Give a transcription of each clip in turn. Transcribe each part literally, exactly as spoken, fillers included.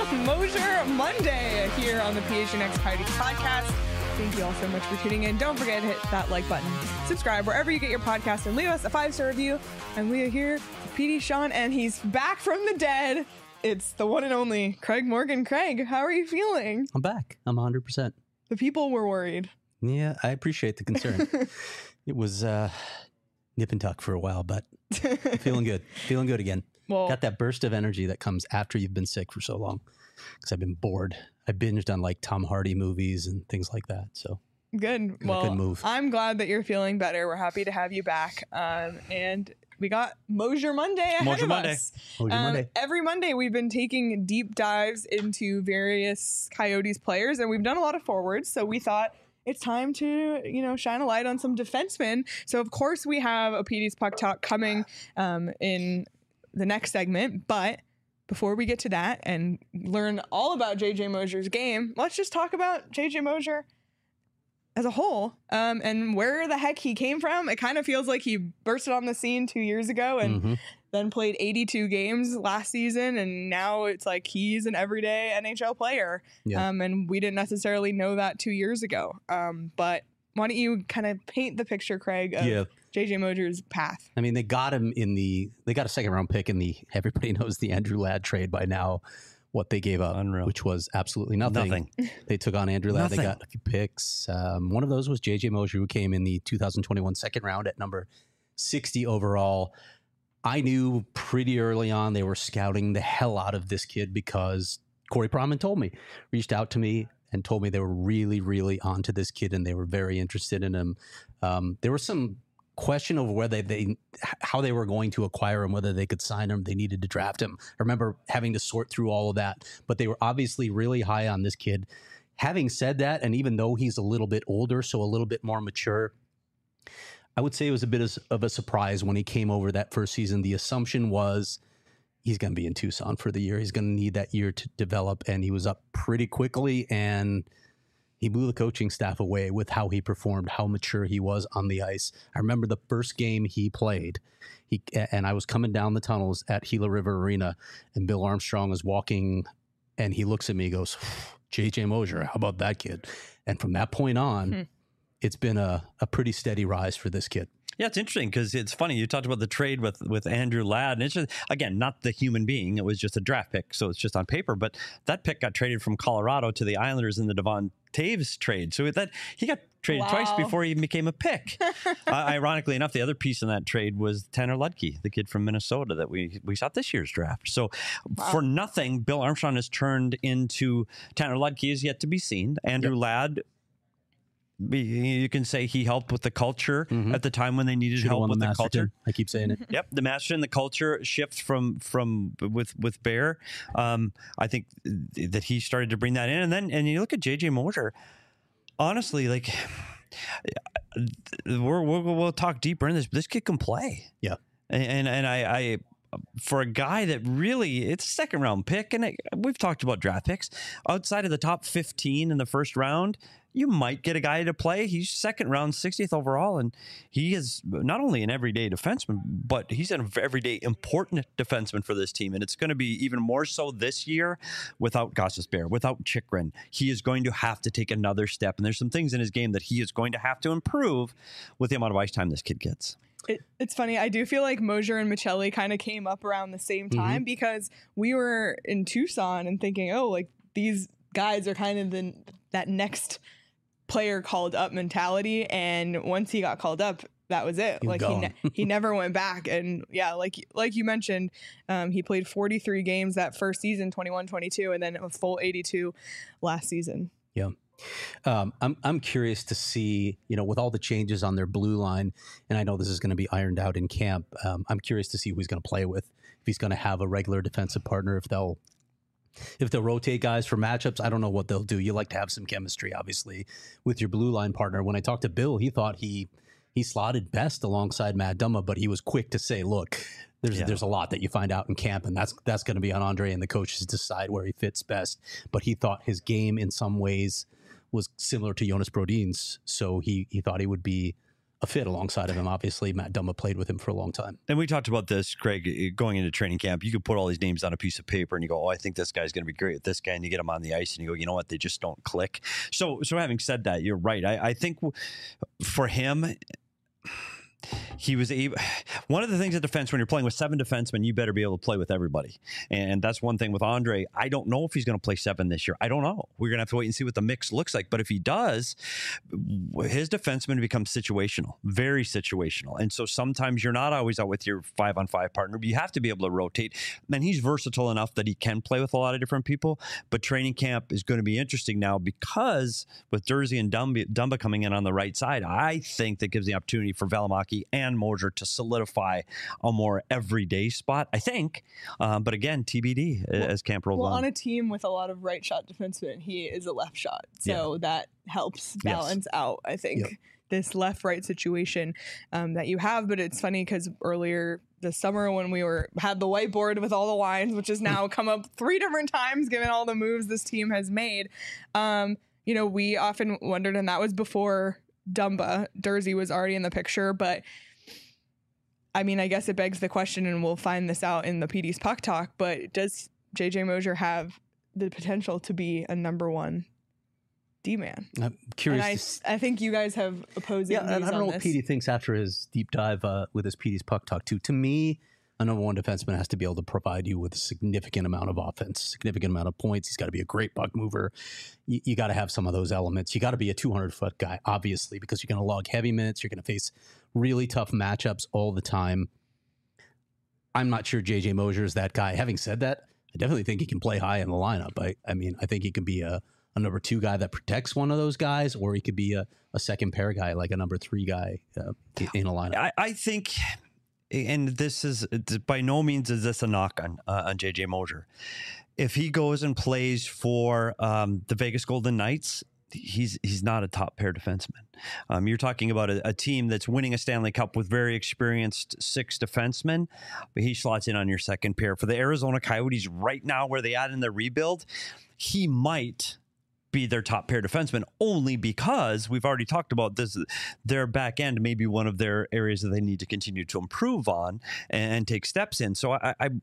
Mosier Monday here on the P H N X Coyotes podcast. Thank you all so much for tuning in. Don't forget to hit that like button, subscribe wherever you get your podcast, and leave us a five-star review. And we are here with P D Sean, and he's back from the dead. It's the one and only Craig Morgan. Craig, how are you feeling? I'm back. I'm one hundred percent. The people were worried. Yeah, I appreciate the concern. It was uh, nip and tuck for a while, but feeling good. Feeling good again. Well, got that burst of energy that comes after you've been sick for so long, because I've been bored. I binged on like Tom Hardy movies and things like that. So good. Well, good move. I'm glad that you're feeling better. We're happy to have you back. Um, and we got Mosier Monday ahead Mosier of Monday. us. Mosier um, Monday. Every Monday we've been taking deep dives into various Coyotes players, and we've done a lot of forwards. So we thought it's time to, you know, shine a light on some defensemen. So of course we have a P D's Puck Talk coming um, in the next segment, but before we get to that and learn all about J J Mosier's game, let's just talk about J J Mosier as a whole um, and where the heck he came from. It kind of feels like he bursted on the scene two years ago and mm-hmm. then played eighty-two games last season. And now it's like he's an everyday N H L player. Yeah. Um, and we didn't necessarily know that two years ago. Um, but why don't you kind of paint the picture, Craig, of yeah. J J Mosier's path? I mean, they got him in the, they got a second round pick in the, everybody knows the Andrew Ladd trade by now, what they gave up, Unreal. Which was absolutely nothing. Nothing. They took on Andrew Ladd. Nothing. They got a few picks. Um, one of those was J J Mosier, who came in the two thousand twenty-one second round at number sixty overall. I knew pretty early on they were scouting the hell out of this kid because Corey Pronman told me, reached out to me and told me they were really, really onto this kid and they were very interested in him. Um, there was some question over whether they, how they were going to acquire him, whether they could sign him, they needed to draft him. I remember having to sort through all of that, but they were obviously really high on this kid. Having said that, and even though he's a little bit older, so a little bit more mature, I would say it was a bit of a surprise when he came over that first season. The assumption was he's going to be in Tucson for the year. He's going to need that year to develop, and he was up pretty quickly, and he blew the coaching staff away with how he performed, how mature he was on the ice. I remember the first game he played, he and I was coming down the tunnels at Gila River Arena, and Bill Armstrong was walking, and he looks at me and goes, J J Mosier, how about that kid? And from that point on, hmm. it's been a, a pretty steady rise for this kid. Yeah, it's interesting because it's funny. You talked about the trade with, with Andrew Ladd. And it's just, again, not the human being. It was just a draft pick, so it's just on paper. But that pick got traded from Colorado to the Islanders in the Devon Taves trade. So that he got traded wow. twice before he became a pick. uh, ironically enough, the other piece in that trade was Tanner Ludke, the kid from Minnesota that we we saw this year's draft. So wow. for nothing, Bill Armstrong has turned into Tanner Ludke is yet to be seen. Andrew yep. Ladd, you can say he helped with the culture mm-hmm. at the time when they needed Should've help with the, the culture. I keep saying it. Yep, the master and the culture shift from from with with Bear. Um, I think that he started to bring that in, and then and you look at J J Mosier. Honestly, like we're, we're we'll talk deeper in this. But this kid can play. Yeah, and and, and I. I for a guy that really, it's a second round pick, and it, we've talked about draft picks outside of the top fifteen in the first round. You might get a guy to play. He's second round, sixtieth overall, and he is not only an everyday defenseman, but he's an everyday important defenseman for this team. And it's going to be even more so this year without Gostisbehere, without Chychrun. He is going to have to take another step, and there's some things in his game that he is going to have to improve with the amount of ice time this kid gets. It, it's funny. I do feel like Mosier and Michelli kind of came up around the same time mm-hmm. because we were in Tucson and thinking, oh, like these guys are kind of the that next player called up mentality. And once he got called up, that was it. He's like gone. he ne- he never went back. And yeah, like like you mentioned, um, he played forty-three games that first season, twenty-one twenty-two, and then a full eighty-two last season. Yeah. Um, I'm I'm curious to see, you know, with all the changes on their blue line, and I know this is going to be ironed out in camp. Um, I'm curious to see who he's going to play with, if he's going to have a regular defensive partner, if they'll if they'll rotate guys for matchups. I don't know what they'll do. You like to have some chemistry, obviously, with your blue line partner. When I talked to Bill, he thought he he slotted best alongside Matt Dumba, but he was quick to say, look, there's yeah. there's a lot that you find out in camp, and that's that's going to be on Andre and the coaches to decide where he fits best. But he thought his game in some ways was similar to Jonas Brodin's, so he he thought he would be a fit alongside of him. Obviously, Matt Dumba played with him for a long time. And we talked about this, Craig, going into training camp. You could put all these names on a piece of paper and you go, oh, I think this guy's going to be great with this guy. And you get him on the ice and you go, you know what? They just don't click. So, so having said that, you're right. I, I think for him, he was able. One of the things at defense, when you're playing with seven defensemen, you better be able to play with everybody. And that's one thing with Andre. I don't know if he's going to play seven this year. I don't know. We're going to have to wait and see what the mix looks like. But if he does, his defensemen become situational, very situational. And so sometimes you're not always out with your five on five partner, but you have to be able to rotate. And he's versatile enough that he can play with a lot of different people. But training camp is going to be interesting now because with Durzi and Dumba, Dumba coming in on the right side, I think that gives the opportunity for Valimaki and Moser to solidify a more everyday spot, I think. Um, but again, T B D well, as camp rolls well, on. on a team with a lot of right shot defensemen, he is a left shot. So yeah. that helps balance yes. out, I think, yep. this left-right situation um, that you have. But it's funny because earlier this summer when we were had the whiteboard with all the lines, which has now come up three different times given all the moves this team has made, um, you know, we often wondered, and that was before Dumba. Durzi was already in the picture, but I mean, I guess it begs the question, and we'll find this out in the P D's Puck Talk, but does J J Moser have the potential to be a number one D-man? I'm curious. And I, I think you guys have opposing yeah, views and I don't on know this. what P D thinks after his deep dive uh, with his P D's Puck Talk, too. To me, a number one defenseman has to be able to provide you with a significant amount of offense, significant amount of points. He's got to be a great puck mover. You, you got to have some of those elements. You got to be a two hundred foot guy, obviously, because you're going to log heavy minutes. You're going to face really tough matchups all the time. I'm not sure J J Moser is that guy. Having said that, I definitely think he can play high in the lineup. I, I mean, I think he could be a, a number two guy that protects one of those guys, or he could be a, a second pair guy, like a number three guy uh, in a lineup. I, I think, and this is by no means is this a knock on uh, on J J Moser. If he goes and plays for um, the Vegas Golden Knights, he's he's not a top pair defenseman. Um, you're talking about a, a team that's winning a Stanley Cup with very experienced six defensemen, but he slots in on your second pair. For the Arizona Coyotes right now, where they at in the rebuild, he might be their top pair defenseman only because we've already talked about this. Their back end may be one of their areas that they need to continue to improve on and, and take steps in. So I, I,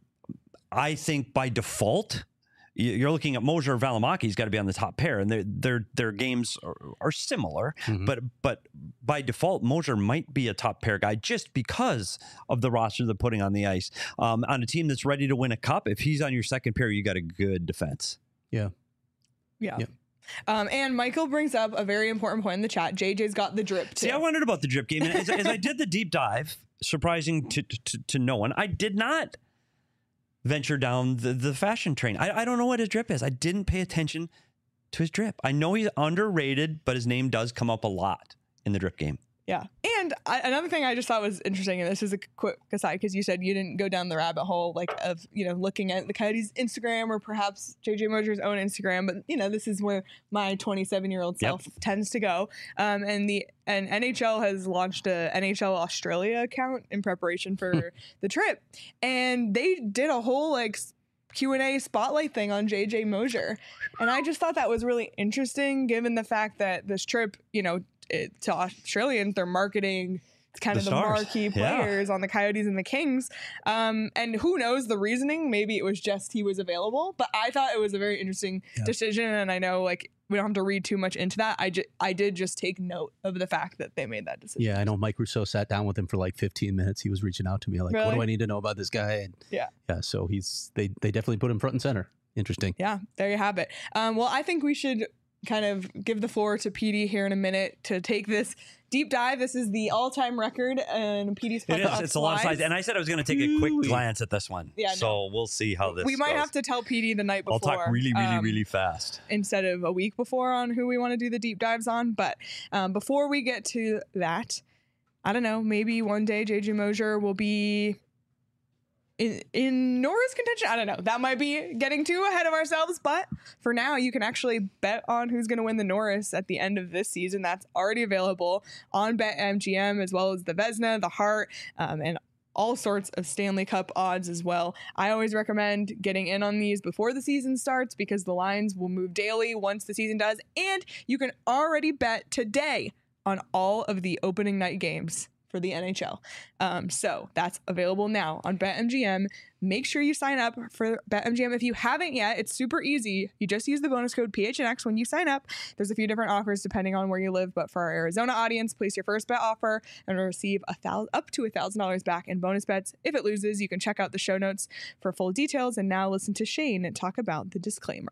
I think by default, you're looking at Moser or Valimaki's got to be on the top pair, and their their their games are, are similar. Mm-hmm. But but by default, Moser might be a top pair guy just because of the roster they're putting on the ice. Um, on a team that's ready to win a cup, if he's on your second pair, you got a good defense. Yeah, yeah. yeah. Um, and Michael brings up a very important point in the chat. J J's got the drip too. See, I wondered about the drip game, and as, as I did the deep dive, surprising to to, to no one, I did not venture down the, the fashion train. I, I don't know what his drip is. I didn't pay attention to his drip. I know he's underrated, but his name does come up a lot in the drip game. Yeah. And I, another thing I just thought was interesting, and this is a quick aside because you said you didn't go down the rabbit hole like of, you know, looking at the Coyotes Instagram or perhaps J J Moser's own Instagram. But, you know, this is where my twenty-seven year old self yep. tends to go. Um, and the and N H L has launched a N H L Australia account in preparation for the trip. And they did a whole like Q and A spotlight thing on J J Moser. And I just thought that was really interesting given the fact that this trip, you know, it, to Australians, they're marketing kind the of the stars. marquee players yeah. on the Coyotes and the Kings. Um, and who knows the reasoning? Maybe it was just he was available. But I thought it was a very interesting yeah. decision. And I know like we don't have to read too much into that. I, ju- I did just take note of the fact that they made that decision. Yeah, I know Mike Rousseau sat down with him for like fifteen minutes. He was reaching out to me like, really? What do I need to know about this guy? And yeah. Yeah, so he's they, they definitely put him front and center. Interesting. Yeah, there you have it. Um, well, I think we should kind of give the floor to P D here in a minute to take this deep dive. This is the all-time record in P D's Puck Talk. It is. It's a lot of slides. And I said I was going to take a quick glance at this one. Yeah, so no. we'll see how this We might goes. have to tell P D the night before. I'll talk really, really, um, really fast. Instead of a week before on who we want to do the deep dives on. But um, before we get to that, I don't know, maybe one day J J Moser will be In, in Norris contention. I don't know. That might be getting too ahead of ourselves, but for now, you can actually bet on who's going to win the Norris at the end of this season. That's already available on BetMGM, as well as the Vezina, the Hart, um, and all sorts of Stanley Cup odds as well. I always recommend getting in on these before the season starts because the lines will move daily once the season does, and you can already bet today on all of the opening night games for the N H L. Um, so that's available now on BetMGM. Make sure you sign up for BetMGM. If you haven't yet, it's super easy. You just use the bonus code P H N X when you sign up. There's a few different offers depending on where you live, but for our Arizona audience, place your first bet offer and receive a thousand, up to one thousand dollars back in bonus bets. If it loses, you can check out the show notes for full details. And now listen to Shane talk about the disclaimer.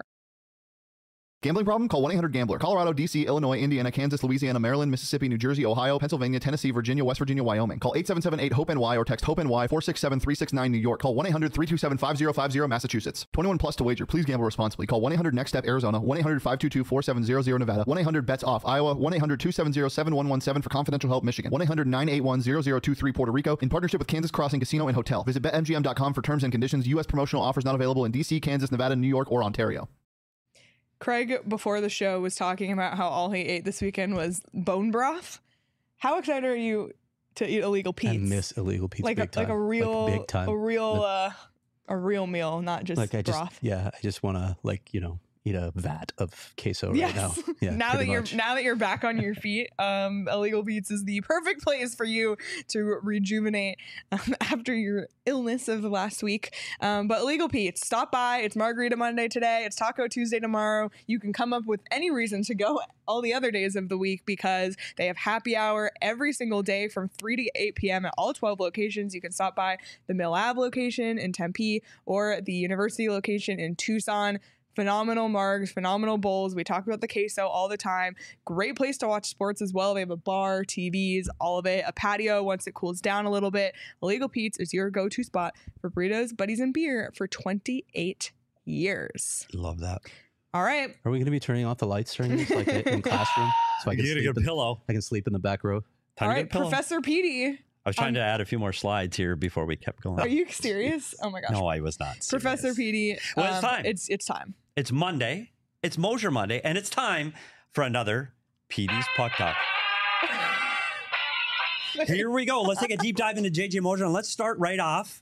Gambling problem? Call one eight hundred gambler. Colorado, D C, Illinois, Indiana, Kansas, Louisiana, Maryland, Mississippi, New Jersey, Ohio, Pennsylvania, Tennessee, Virginia, West Virginia, Wyoming. Call eight seven seven eight hope N Y or text HOPE-NY four six seven three six nine New York. Call one eight hundred three two seven five zero five zero Massachusetts. twenty-one plus to wager. Please gamble responsibly. Call one eight hundred next step Arizona. one eight hundred five two two four seven zero zero Nevada. one eight hundred bets off Iowa. one eight hundred two seven zero seven one one seven for confidential help Michigan. one eight hundred nine eight one zero zero two three Puerto Rico. In partnership with Kansas Crossing Casino and Hotel. Visit bet M G M dot com for terms and conditions. U S promotional offers not available in D C, Kansas, Nevada, New York, or Ontario. Craig, before the show, was talking about how all he ate this weekend was bone broth. How excited are you to eat Illegal Pete's? I miss Illegal Pete's like big a, time. Like a real, like big time. a real, But, uh, a real meal, not just like I broth. just, yeah, I just want to like you know eat a vat of queso right yes. now. Yeah, now that much. you're now that you're back on your feet, um, Illegal Pete's is the perfect place for you to rejuvenate um, after your illness of the last week. Um, but Illegal Pete's, stop by. It's Margarita Monday today. It's Taco Tuesday tomorrow. You can come up with any reason to go all the other days of the week because they have happy hour every single day from three to eight p.m. at all twelve locations. You can stop by the Mill Ave location in Tempe or the University location in Tucson. Phenomenal margs, phenomenal bowls. We talk about the queso all the time. Great place to watch sports as well. They have a bar, T Vs, all of it. A patio once it cools down a little bit. Illegal Pete's is your go-to spot for burritos, buddies, and beer for twenty-eight years. Love that. All right. Are we going to be turning off the lights during this, like in classroom, so I can Get a sleep good in, pillow. I can sleep in the back row. Time all to right, get a pillow. Professor Petey. I was trying um, to add a few more slides here before we kept going. Are you serious? Oh my gosh. No, I was not serious. Professor Petey. Well, it's um, time. It's it's time. It's Monday. It's Mosier Monday, and it's time for another Petey's Puck Talk. Here we go. Let's take a deep dive into J J Mosier, and let's start right off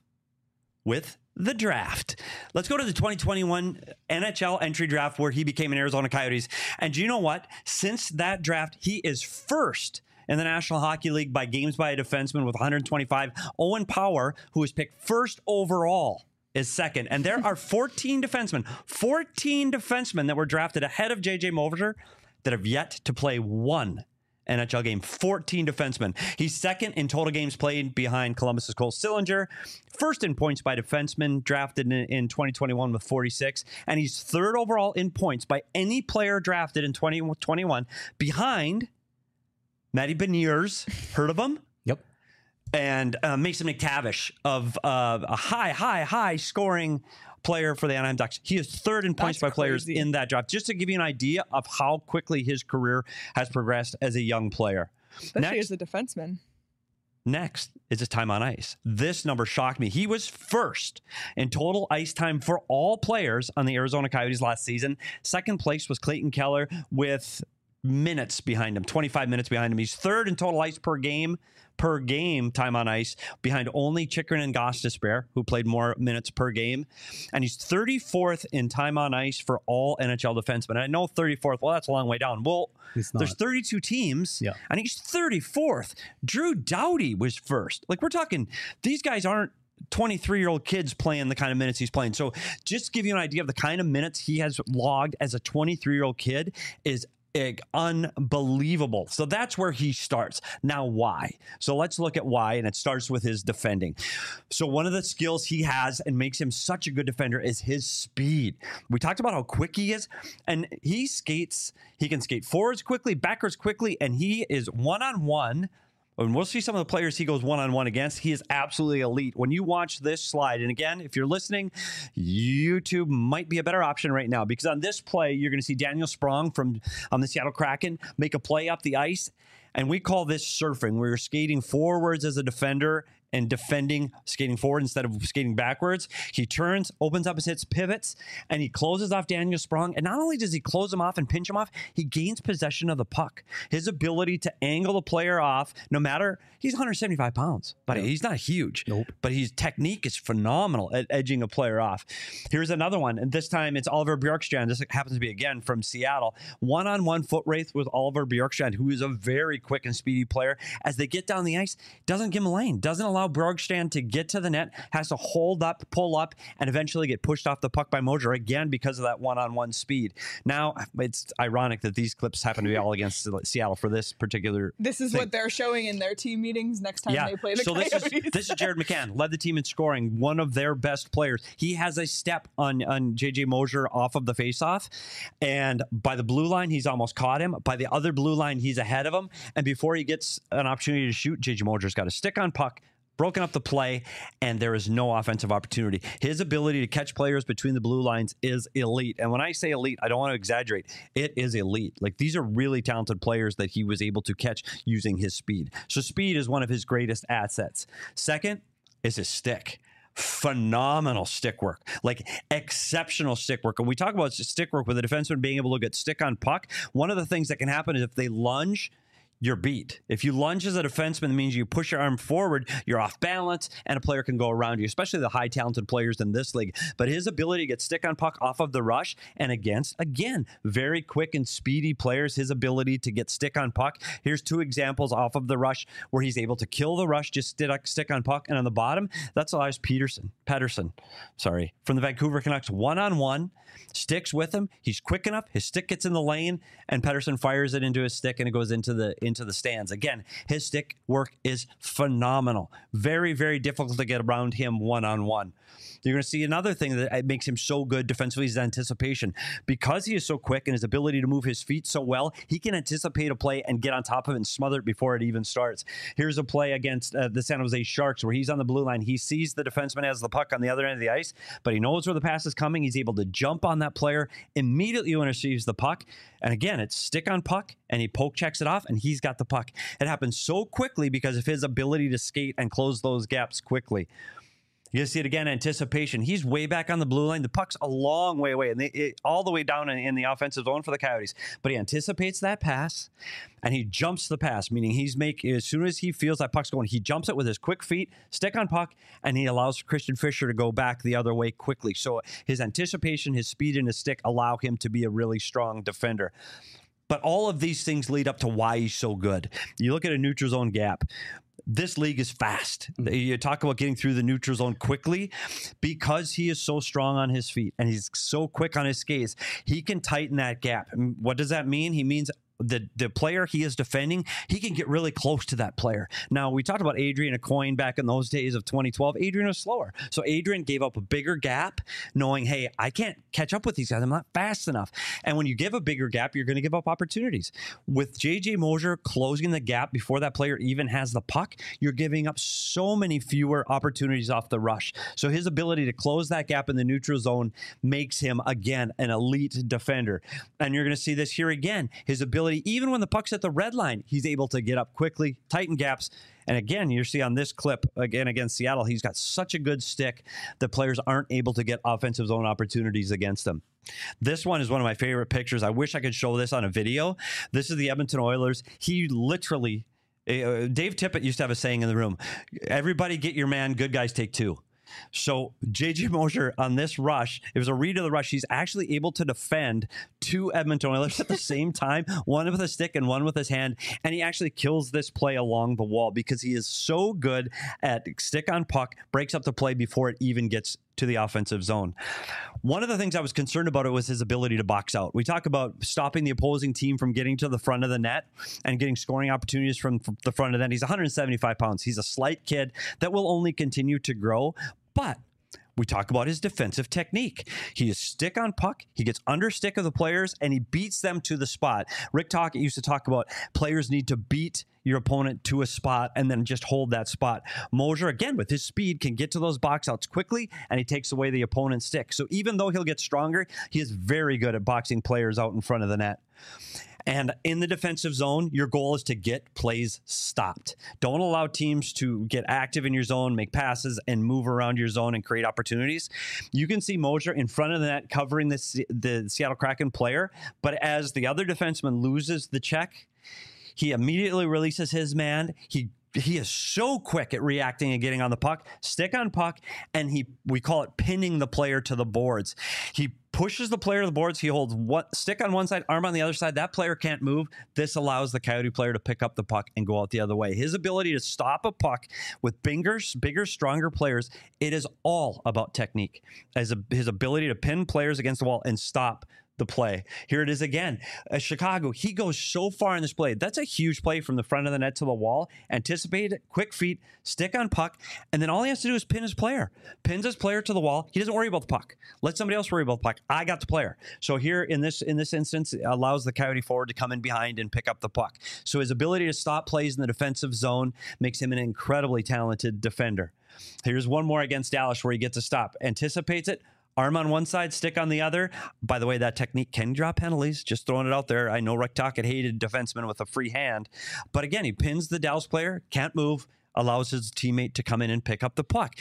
with the draft. Let's go to the twenty twenty-one N H L entry draft where he became an Arizona Coyotes. And do you know what? Since that draft, he is first in the National Hockey League by games by a defenseman with one hundred twenty-five. Owen Power, who was picked first overall, is second. And there are fourteen defensemen, fourteen defensemen that were drafted ahead of J J Mosier that have yet to play one N H L game. fourteen defensemen. He's second in total games played behind Columbus's Cole Sillinger. First in points by defensemen, drafted in, in twenty twenty-one with forty-six. And he's third overall in points by any player drafted in twenty twenty-one behind Matty Beniers. Heard of him? Yep. And uh, Mason McTavish of uh, a high, high, high scoring player for the Anaheim Ducks. He is third in points That's by players crazy. in that draft. Just to give you an idea of how quickly his career has progressed as a young player. Especially Next, as a defenseman. next is his time on ice. This number shocked me. He was first in total ice time for all players on the Arizona Coyotes last season. Second place was Clayton Keller with minutes behind him, twenty-five minutes behind him. He's third in total ice per game, per game time on ice, behind only Chychrun and Gostisbehere, who played more minutes per game. And he's thirty-fourth in time on ice for all N H L defensemen. And I know thirty-fourth, well, that's a long way down. Well, there's thirty-two teams, Yeah. and he's thirty-fourth. Drew Doughty was first. Like, we're talking, these guys aren't twenty-three-year-old kids playing the kind of minutes he's playing. So just to give you an idea of the kind of minutes he has logged as a twenty-three-year-old kid is unbelievable. So that's where he starts. Now, why? So let's look at why, and it starts with his defending. So one of the skills he has and makes him such a good defender is his speed. We talked about how quick he is, and he skates, he can skate forwards quickly, backwards quickly, and he is one-on-one. And we'll see some of the players he goes one-on-one against. He is absolutely elite. When you watch this slide, and again, if you're listening, YouTube might be a better option right now, because on this play, you're going to see Daniel Sprong from um, the Seattle Kraken make a play up the ice, and we call this surfing, where you're skating forwards as a defender and defending, skating forward instead of skating backwards. He turns, opens up his hits, pivots, and he closes off Daniel Sprong. And not only does he close him off and pinch him off, he gains possession of the puck. His ability to angle the player off, no matter, he's one hundred seventy-five pounds, but yep. he's not huge. Nope. But his technique is phenomenal at edging a player off. Here's another one, and this time it's Oliver Bjorkstrand. This happens to be, again, from Seattle. One-on-one foot race with Oliver Bjorkstrand, who is a very quick and speedy player. As they get down the ice, doesn't give him a lane, doesn't allow Bjorkstrand to get to the net, has to hold up, pull up, and eventually get pushed off the puck by Moser, again, because of that one-on-one speed. Now, it's ironic that these clips happen to be all against Seattle for this particular This is thing. what they're showing in their team meetings next time yeah. they play the so Coyotes. This is, this is Jared McCann, led the team in scoring, one of their best players. He has a step on, on J J Moser off of the faceoff, and by the blue line, he's almost caught him. By the other blue line, he's ahead of him, and before he gets an opportunity to shoot, J J Moser's got a stick on puck, broken up the play, and there is no offensive opportunity. His ability to catch players between the blue lines is elite. And when I say elite, I don't want to exaggerate. It is elite. Like, these are really talented players that he was able to catch using his speed. So speed is one of his greatest assets. Second is his stick. Phenomenal stick work, like exceptional stick work. And we talk about stick work with a defenseman being able to get stick on puck. One of the things that can happen is if they lunge, you're beat. If you lunge as a defenseman, it means you push your arm forward, you're off balance, and a player can go around you, especially the high talented players in this league. But his ability to get stick on puck off of the rush and against, again, very quick and speedy players, his ability to get stick on puck. Here's two examples off of the rush where he's able to kill the rush, just stick on puck. And on the bottom, that's Elias Peterson, Pettersson, sorry, from the Vancouver Canucks, one-on-one, sticks with him. He's quick enough. His stick gets in the lane, and Pettersson fires it into his stick, and it goes into the into the stands. Again, his stick work is phenomenal. Very, very difficult to get around him one-on-one. You're going to see another thing that makes him so good defensively is anticipation. Because he is so quick and his ability to move his feet so well, he can anticipate a play and get on top of it and smother it before it even starts. Here's a play against uh, the San Jose Sharks where he's on the blue line. He sees the defenseman has the puck on the other end of the ice, but he knows where the pass is coming. He's able to jump on that player immediately when he receives the puck. And again, it's stick on puck, and he poke checks it off, and he's got the puck. It happens so quickly because of his ability to skate and close those gaps quickly. You see it again, anticipation. He's way back on the blue line. The puck's a long way away, and they, it, all the way down in, in the offensive zone for the Coyotes. But he anticipates that pass, and he jumps the pass, meaning he's make as soon as he feels that puck's going, he jumps it with his quick feet, stick on puck, and he allows Christian Fischer to go back the other way quickly. So his anticipation, his speed, and his stick allow him to be a really strong defender. But all of these things lead up to why he's so good. You look at a neutral zone gap. This league is fast. You talk about getting through the neutral zone quickly. Because he is so strong on his feet and he's so quick on his skates, he can tighten that gap. And what does that mean? He means the the player he is defending, he can get really close to that player. Now, we talked about Adrian Aucoin back in those days of twenty twelve. Adrian was slower. So Adrian gave up a bigger gap, knowing, hey, I can't catch up with these guys. I'm not fast enough. And when you give a bigger gap, you're going to give up opportunities. With J J Moser closing the gap before that player even has the puck, you're giving up so many fewer opportunities off the rush. So his ability to close that gap in the neutral zone makes him, again, an elite defender. And you're going to see this here again. His ability, even when the puck's at the red line, he's able to get up quickly, tighten gaps. And again, you see on this clip, again, against Seattle, he's got such a good stick that players aren't able to get offensive zone opportunities against him. This one is one of my favorite pictures. I wish I could show this on a video. This is the Edmonton Oilers. He literally, uh, Dave Tippett used to have a saying in the room, everybody get your man, good guys take two. So J J Moser on this rush, it was a read of the rush. He's actually able to defend two Edmonton Oilers at the same time, one with a stick and one with his hand. And he actually kills this play along the wall because he is so good at stick on puck, breaks up the play before it even gets to the offensive zone. One of the things I was concerned about it was his ability to box out. We talk about stopping the opposing team from getting to the front of the net and getting scoring opportunities from the front of the net. He's one hundred seventy-five pounds. He's a slight kid that will only continue to grow. But we talk about his defensive technique. He is stick on puck. He gets under stick of the players, and he beats them to the spot. Rick Tocchet used to talk about players need to beat your opponent to a spot and then just hold that spot. Moser, again, with his speed, can get to those box outs quickly, and he takes away the opponent's stick. So even though he'll get stronger, he is very good at boxing players out in front of the net. And in the defensive zone, your goal is to get plays stopped. Don't allow teams to get active in your zone, make passes, and move around your zone and create opportunities. You can see Moser in front of the net covering the, the Seattle Kraken player, but as the other defenseman loses the check, he immediately releases his man. He He is so quick at reacting and getting on the puck, stick on puck, and he we call it pinning the player to the boards. He pushes the player to the boards. He holds one stick on one side, arm on the other side. That player can't move. This allows the Coyote player to pick up the puck and go out the other way. His ability to stop a puck with bigger, bigger, stronger players, it is all about technique. As a, his ability to pin players against the wall and stop the play. Here it is again. Uh, Chicago, he goes so far in this play. That's a huge play from the front of the net to the wall. Anticipate it, quick feet, stick on puck, and then all he has to do is pin his player. Pins his player to the wall. He doesn't worry about the puck. Let somebody else worry about the puck. I got the player. So here in this in this instance, it allows the Coyote forward to come in behind and pick up the puck. So his ability to stop plays in the defensive zone makes him an incredibly talented defender. Here's one more against Dallas where he gets a stop. Anticipates it. Arm on one side, stick on the other. By the way, that technique can draw penalties. Just throwing it out there. I know Rick Tocchet hated defensemen with a free hand. But again, he pins the Dallas player, can't move, allows his teammate to come in and pick up the puck.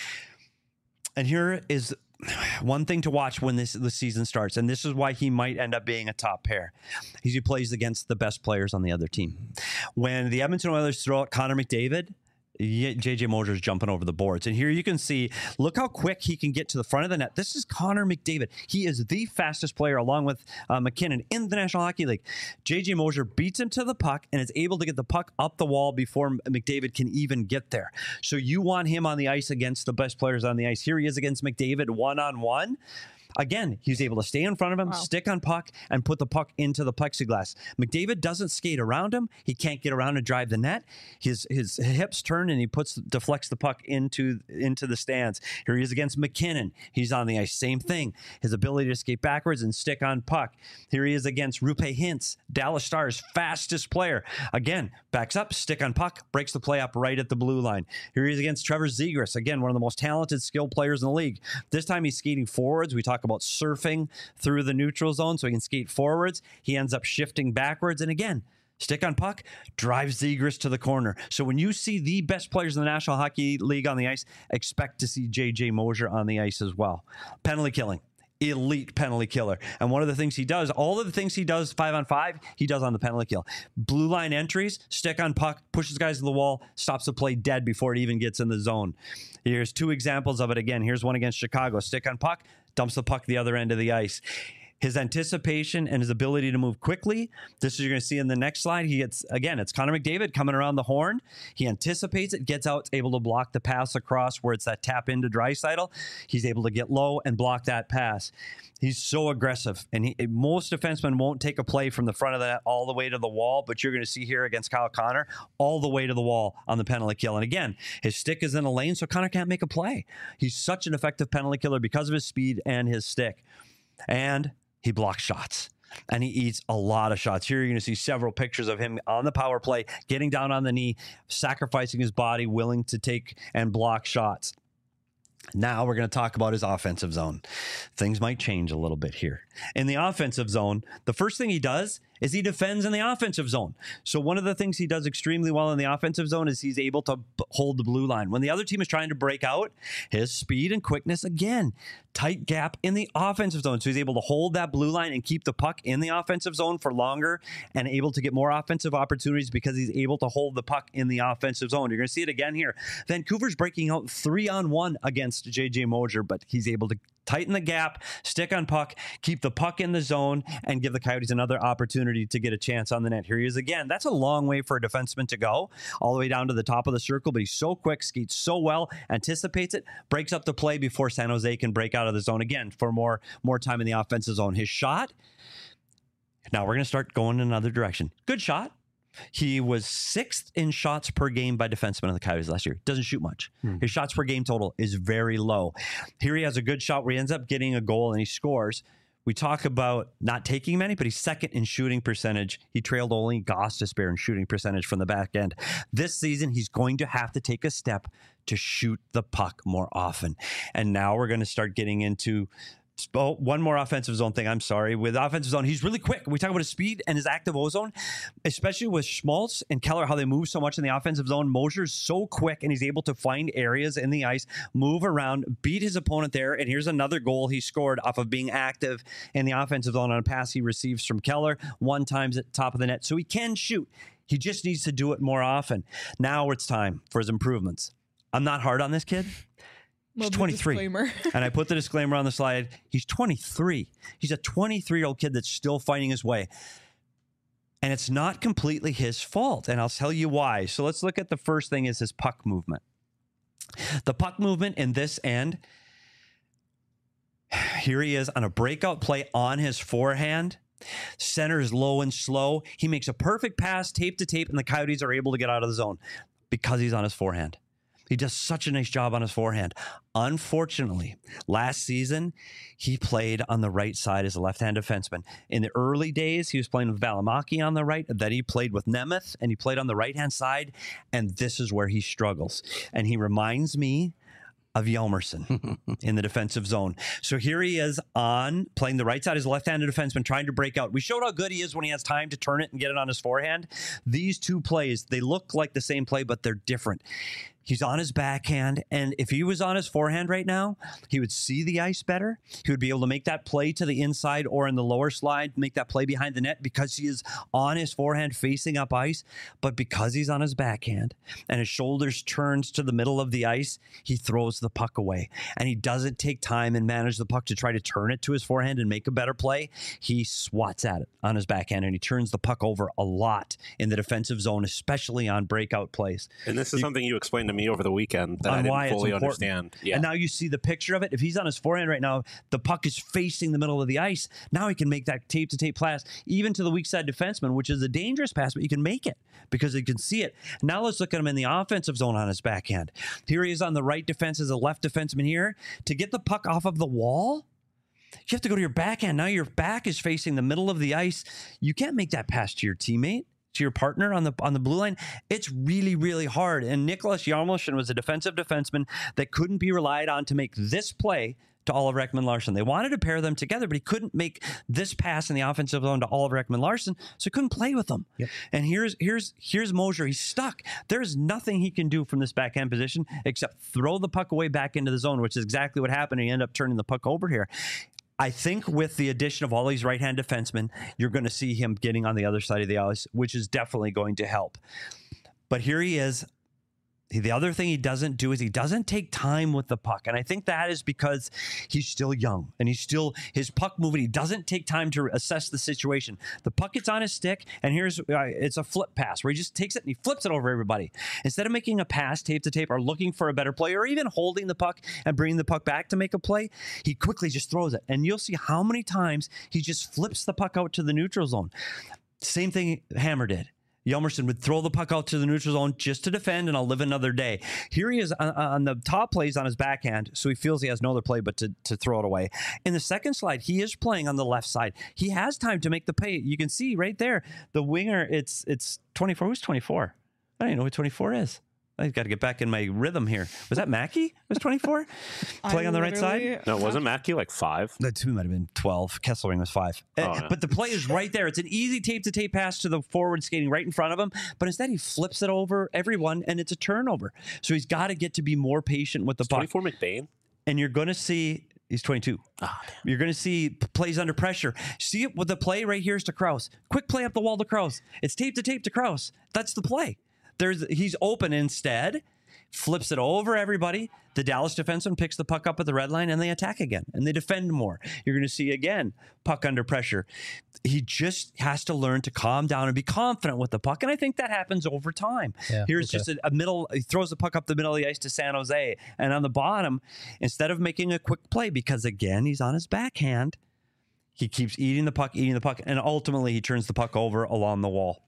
And here is one thing to watch when this the season starts, and this is why he might end up being a top pair. He plays against the best players on the other team. When the Edmonton Oilers throw out Connor McDavid, J J Moser is jumping over the boards. And here you can see, look how quick he can get to the front of the net. This is Connor McDavid. He is the fastest player along with uh, McKinnon in the National Hockey League. J J Moser beats him to the puck and is able to get the puck up the wall before McDavid can even get there. So you want him on the ice against the best players on the ice. Here he is against McDavid one-on-one. Again, he's able to stay in front of him, wow. stick on puck, and put the puck into the plexiglass. McDavid doesn't skate around him. He can't get around and drive the net. His his hips turn, and he puts deflects the puck into, into the stands. Here he is against McKinnon. He's on the ice. Same thing. His ability to skate backwards and stick on puck. Here he is against Roope Hintz, Dallas Stars' fastest player. Again, backs up, stick on puck, breaks the play up right at the blue line. Here he is against Trevor Zegras. Again, one of the most talented, skilled players in the league. This time he's skating forwards. We talk about surfing through the neutral zone so he can skate forwards. He ends up shifting backwards, and again, stick on puck, drives Zegras to the corner. So when you see the best players in the National Hockey League on the ice, expect to see J J Moser on the ice as well. Penalty killing. Elite penalty killer. And one of the things he does, all of the things he does five on five, he does on the penalty kill. Blue line entries, stick on puck, pushes guys to the wall, stops the play dead before it even gets in the zone. Here's two examples of it again. Here's one against Chicago. Stick on puck, dumps the puck the other end of the ice. His anticipation and his ability to move quickly. This is you're going to see in the next slide. He gets, again, it's Connor McDavid coming around the horn. He anticipates it, gets out, able to block the pass across where it's that tap into Draisaitl. He's able to get low and block that pass. He's so aggressive. And he, most defensemen won't take a play from the front of the net all the way to the wall, but you're going to see here against Kyle Connor, all the way to the wall on the penalty kill. And again, his stick is in a lane, so Connor can't make a play. He's such an effective penalty killer because of his speed and his stick. And he blocks shots, and he eats a lot of shots. Here you're going to see several pictures of him on the power play, getting down on the knee, sacrificing his body, willing to take and block shots. Now we're going to talk about his offensive zone. Things might change a little bit here. In the offensive zone, the first thing he does is he defends in the offensive zone. So one of the things he does extremely well in the offensive zone is he's able to b- hold the blue line. When the other team is trying to break out, his speed and quickness, again, tight gap in the offensive zone. So he's able to hold that blue line and keep the puck in the offensive zone for longer and able to get more offensive opportunities because he's able to hold the puck in the offensive zone. You're going to see it again here. Vancouver's breaking out three on one against J J Moser, but he's able to tighten the gap, stick on puck, keep the puck in the zone, and give the Coyotes another opportunity to get a chance on the net. Here he is again. That's a long way for a defenseman to go, all the way down to the top of the circle, but he's so quick, skates so well, anticipates it, breaks up the play before San Jose can break out of the zone again for more, more time in the offensive zone. His shot, now we're going to start going in another direction. Good shot. He was sixth in shots per game by defensemen in the Coyotes last year. Doesn't shoot much. Hmm. His shots per game total is very low. Here he has a good shot where he ends up getting a goal and he scores. We talk about not taking many, but he's second in shooting percentage. He trailed only Gostisbehere in shooting percentage from the back end. This season, he's going to have to take a step to shoot the puck more often. And now we're going to start getting into Oh, one more offensive zone thing. I'm sorry. With offensive zone, he's really quick. We talk about his speed and his active O-zone, especially with Schmaltz and Keller, how they move so much in the offensive zone. Mosier's so quick, and he's able to find areas in the ice, move around, beat his opponent there. And here's another goal he scored off of being active in the offensive zone on a pass he receives from Keller, one times at the top of the net. So he can shoot. He just needs to do it more often. Now it's time for his improvements. I'm not hard on this kid. He's twenty-three. And I put the disclaimer on the slide. He's twenty-three. He's a twenty-three-year-old kid that's still finding his way. And it's not completely his fault. And I'll tell you why. So let's look at the first thing is his puck movement. The puck movement in this end, here he is on a breakout play on his forehand. Center is low and slow. He makes a perfect pass, tape to tape, and the Coyotes are able to get out of the zone because he's on his forehand. He does such a nice job on his forehand. Unfortunately, last season, he played on the right side as a left-hand defenseman. In the early days, he was playing with Valimaki on the right. Then he played with Nemeth, and he played on the right-hand side. And this is where he struggles. And he reminds me of Hjalmarsson in the defensive zone. So here he is on playing the right side as a left-handed defenseman, trying to break out. We showed how good he is when he has time to turn it and get it on his forehand. These two plays, they look like the same play, but they're different. He's on his backhand, and if he was on his forehand right now, he would see the ice better. He would be able to make that play to the inside or in the lower slide, make that play behind the net because he is on his forehand facing up ice. But because he's on his backhand and his shoulders turns to the middle of the ice, he throws the puck away. And he doesn't take time and manage the puck to try to turn it to his forehand and make a better play. He swats at it on his backhand, and he turns the puck over a lot in the defensive zone, especially on breakout plays. And this is you, something you explained to me over the weekend that I didn't fully understand. Yeah. And now you see the picture of it. If he's on his forehand right now, the puck is facing the middle of the ice. Now he can make that tape-to-tape pass, even to the weak side defenseman, which is a dangerous pass, but you can make it because you can see it. Now let's look at him in the offensive zone on his backhand. Here he is on the right defense as a left defenseman here. To get the puck off of the wall, you have to go to your backhand. Now your back is facing the middle of the ice. You can't make that pass to your teammate, to your partner on the on the blue line. It's really, really hard. And Nicholas Hjalmarsson was a defensive defenseman that couldn't be relied on to make this play to Oliver Ekman-Larsson. They wanted to pair them together, but he couldn't make this pass in the offensive zone to Oliver Ekman-Larsson, so he couldn't play with them. Yep. And here's here's here's Mosier. He's stuck. There's nothing he can do from this backhand position except throw the puck away back into the zone, which is exactly what happened. He ended up turning the puck over here. I think with the addition of all these right-hand defensemen, you're going to see him getting on the other side of the ice, which is definitely going to help. But here he is. The other thing he doesn't do is he doesn't take time with the puck. And I think that is because he's still young and he's still, his puck movement, he doesn't take time to assess the situation. The puck gets on his stick, and here's, uh, it's a flip pass where he just takes it and he flips it over everybody. Instead of making a pass tape to tape or looking for a better play or even holding the puck and bringing the puck back to make a play, he quickly just throws it. And you'll see how many times he just flips the puck out to the neutral zone. Same thing Hammer did. Hjalmarsson would throw the puck out to the neutral zone just to defend, and I'll live another day. Here he is on, on the top plays on his backhand, so he feels he has no other play but to, to throw it away. In the second slide, he is playing on the left side. He has time to make the play. You can see right there, the winger, it's it's twenty-four. Who's twenty-four? I don't even know who twenty-four is. I've got to get back in my rhythm here. Was that Mackey? Was twenty-four? Playing on the right side? No, wasn't Mackey like five? The two might have been twelve. Kesselring was five. Oh, uh, yeah. But the play is right there. It's an easy tape-to-tape pass to the forward skating right in front of him. But instead, he flips it over everyone, and it's a turnover. So he's got to get to be more patient with the puck. twenty-four McBain? And you're going to see... He's twenty-two. Oh, you're going to see plays under pressure. See it with the play right here is to Krause. Quick play up the wall to Krause. It's tape-to-tape to Krause. That's the play. There's he's open instead, flips it over everybody. The Dallas defenseman picks the puck up at the red line, and they attack again, and they defend more. You're going to see, again, puck under pressure. He just has to learn to calm down and be confident with the puck, and I think that happens over time. Yeah, Here's okay. just a, a middle, he throws the puck up the middle of the ice to San Jose, and on the bottom, instead of making a quick play, because, again, he's on his backhand, he keeps eating the puck, eating the puck, and ultimately he turns the puck over along the wall.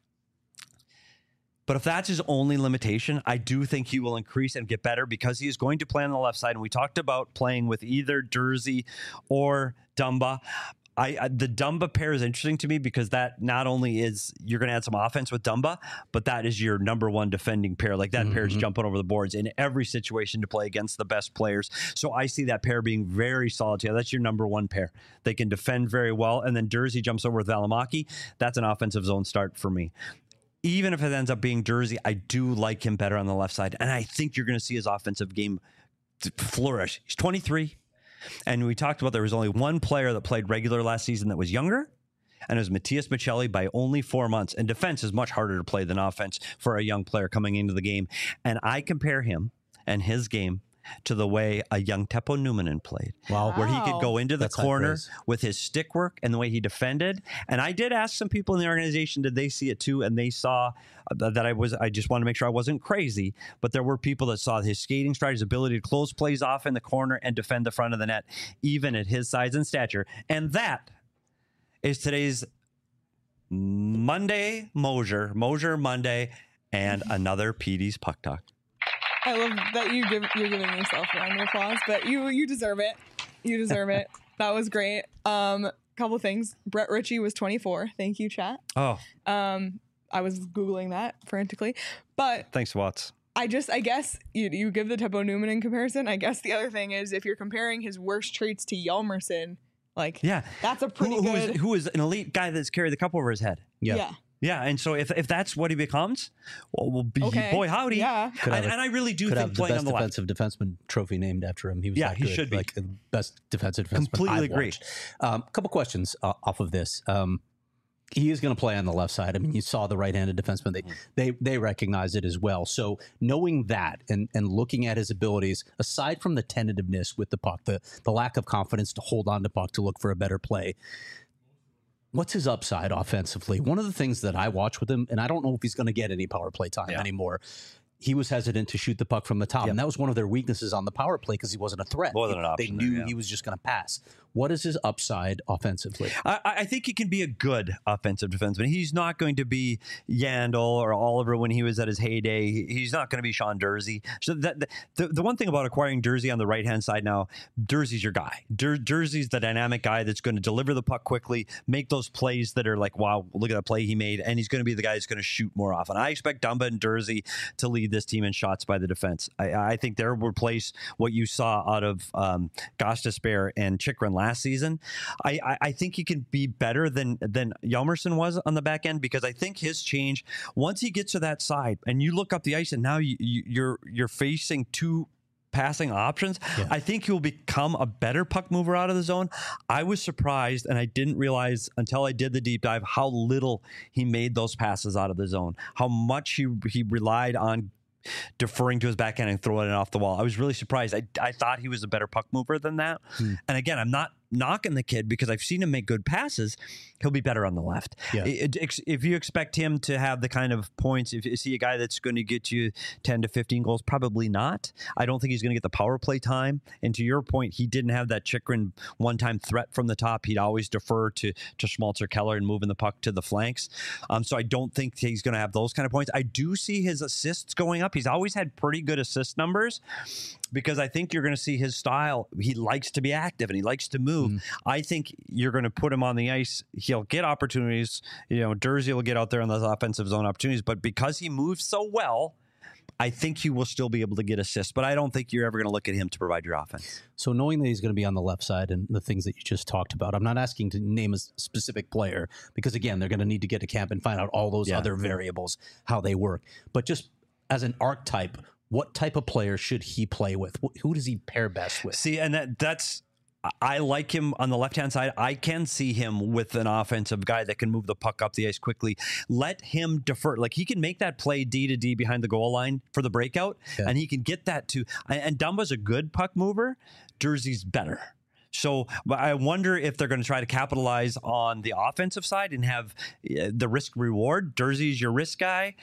But if that's his only limitation, I do think he will increase and get better because he is going to play on the left side. And we talked about playing with either Durzi or Dumba. I, I the Dumba pair is interesting to me because that not only is you're going to add some offense with Dumba, but that is your number one defending pair. Like that mm-hmm. pair is jumping over the boards in every situation to play against the best players. So I see that pair being very solid. Yeah, that's your number one pair. They can defend very well, and then Jersey jumps over with Valimaki. That's an offensive zone start for me. Even if it ends up being Jersey, I do like him better on the left side, and I think you're going to see his offensive game flourish. He's twenty-three. And we talked about there was only one player that played regular last season that was younger, and it was Matias Maccelli by only four months. And defense is much harder to play than offense for a young player coming into the game. And I compare him and his game to the way a young Teppo Numminen played. Wow. Where he could go into the That's corner with his stick work and the way he defended. And I did ask some people in the organization, did they see it too? And they saw that I was, I just wanted to make sure I wasn't crazy, but there were people that saw his skating stride, his ability to close plays off in the corner and defend the front of the net, even at his size and stature. And that is today's Monday Mosier, Mosier Monday, and another P D's Puck Talk. I love that you give, you're giving yourself a round of applause, but you you deserve it. You deserve it. That was great. Um, couple things. Brett Ritchie was twenty-four. Thank you, chat. Oh. Um, I was Googling that frantically, but thanks, Watts. I just, I guess you you give the Teppo Numminen comparison. I guess the other thing is if you're comparing his worst traits to Hjalmarsson, like yeah, that's a pretty who, good. Who is, who is an elite guy that's carried the cup over his head? Yeah. Yeah. Yeah, and so if if that's what he becomes, well, we'll be okay. boy howdy. Yeah, and, a, and I really do could think have playing the best on the defensive left. defenseman trophy named after him. He was yeah, that he good, should be like the best defensive defenseman. Completely I've agree. A um, couple questions uh, off of this. Um, he is going to play on the left side. I mean, you saw the right-handed defenseman. They mm. they they recognize it as well. So knowing that and and looking at his abilities, aside from the tentativeness with the puck, the the lack of confidence to hold on to puck to look for a better play. What's his upside offensively? One of the things that I watch with him, and I don't know if he's going to get any power play time yeah. anymore, he was hesitant to shoot the puck from the top. Yep. And that was one of their weaknesses on the power play because he wasn't a threat. Wasn't an they option knew there, yeah. he was just going to pass. What is his upside offensively? I, I think he can be a good offensive defenseman. He's not going to be Yandel or Oliver when he was at his heyday. He's not going to be Sean Durzi. So that, the, the one thing about acquiring Durzi on the right-hand side now, Durzi's your guy. Dur, Durzi's the dynamic guy that's going to deliver the puck quickly, make those plays that are like, wow, look at that play he made, and he's going to be the guy that's going to shoot more often. I expect Dumba and Durzi to lead this team in shots by the defense. I, I think they'll replace what you saw out of um, Gostisbehere and Chychrun last season. I, I, I think he can be better than than Hjalmarsson was on the back end because I think his change, once he gets to that side and you look up the ice and now you, you, you're you're facing two passing options, yeah. I think he'll become a better puck mover out of the zone. I was surprised, and I didn't realize until I did the deep dive how little he made those passes out of the zone, how much he he relied on deferring to his backhand and throwing it off the wall. I was really surprised. I, I thought he was a better puck mover than that. Hmm. And again, I'm not knocking the kid because I've seen him make good passes. He'll be better on the left. Yeah. It, it, if you expect him to have the kind of points, if is he a guy that's going to get you ten to fifteen goals? Probably not. I don't think he's going to get the power play time. And to your point, he didn't have that Chychrun one-time threat from the top. He'd always defer to to Schmaltz or Keller and moving the puck to the flanks. Um, so I don't think he's going to have those kind of points. I do see his assists going up. He's always had pretty good assist numbers because I think you're going to see his style. He likes to be active and he likes to move. Mm. I think you're going to put him on the ice. He'll get opportunities. You know, Durzi will get out there on those offensive zone opportunities, but because he moves so well, I think he will still be able to get assists, but I don't think you're ever going to look at him to provide your offense. So knowing that he's going to be on the left side and the things that you just talked about, I'm not asking to name a specific player because, again, they're going to need to get to camp and find out all those yeah. other variables, how they work. But just as an archetype, what type of player should he play with? Who does he pair best with? See, and that that's... I like him on the left-hand side. I can see him with an offensive guy that can move the puck up the ice quickly. Let him defer. Like, he can make that play D to D behind the goal line for the breakout, yeah. and he can get that to... And Dumba's a good puck mover. Durzi's better. So I wonder if they're going to try to capitalize on the offensive side and have the risk reward. Durzi's your risk guy,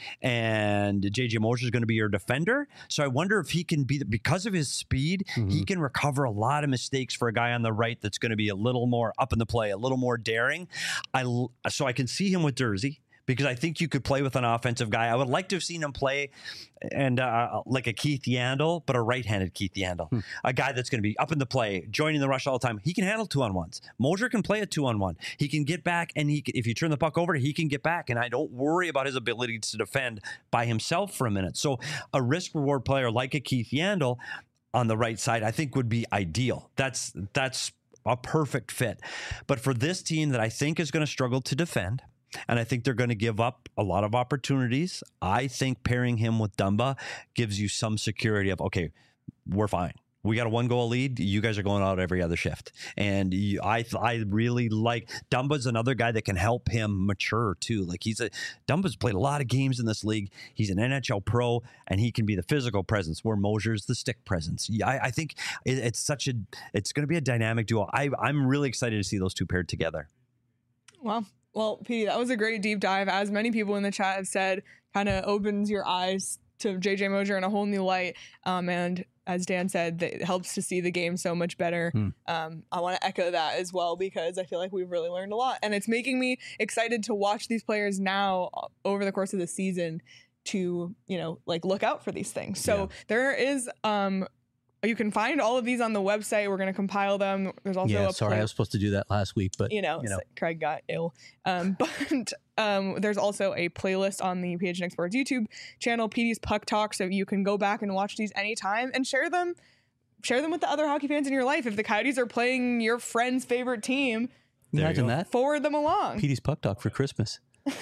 and J J Mosier is going to be your defender. So I wonder if he can be, because of his speed, mm-hmm. he can recover a lot of mistakes for a guy on the right that's going to be a little more up in the play, a little more daring. I so I can see him with Durzi. because I think you could play with an offensive guy. I would like to have seen him play and uh, like a Keith Yandle, but a right-handed Keith Yandle, hmm. a guy that's going to be up in the play, joining the rush all the time. He can handle two-on-ones. Mosier can play a two-on-one. He can get back, and he if you turn the puck over, he can get back, and I don't worry about his ability to defend by himself for a minute. So a risk-reward player like a Keith Yandle on the right side, I think would be ideal. That's that's a perfect fit. But for this team that I think is going to struggle to defend, and I think they're going to give up a lot of opportunities, I think pairing him with Dumba gives you some security of, okay, we're fine. We got a one-goal lead. You guys are going out every other shift. And you, I I really like Dumba's another guy that can help him mature too. Like he's a Dumba's played a lot of games in this league. He's an N H L pro, and he can be the physical presence where Mosier's the stick presence. Yeah, I, I think it, it's such a it's going to be a dynamic duo. I I'm really excited to see those two paired together. Wow. Well, Petey, that was a great deep dive. As many people in the chat have said, kind of opens your eyes to J J Mosier in a whole new light. Um, and as Dan said, that it helps to see the game so much better. Hmm. Um, I want to echo that as well, because I feel like we've really learned a lot. And it's making me excited to watch these players now over the course of the season to, you know, like look out for these things. So yeah. there is... Um, You can find all of these on the website. We're going to compile them. There's also yeah, a sorry, I was supposed to do that last week, but you know, you know. Craig got ill. Um, but um, there's also a playlist on the P H N X Sports YouTube channel, Petey's Puck Talk, so you can go back and watch these anytime and share them. Share them with the other hockey fans in your life. If the Coyotes are playing your friend's favorite team, imagine that. Forward them along. Petey's Puck Talk for Christmas.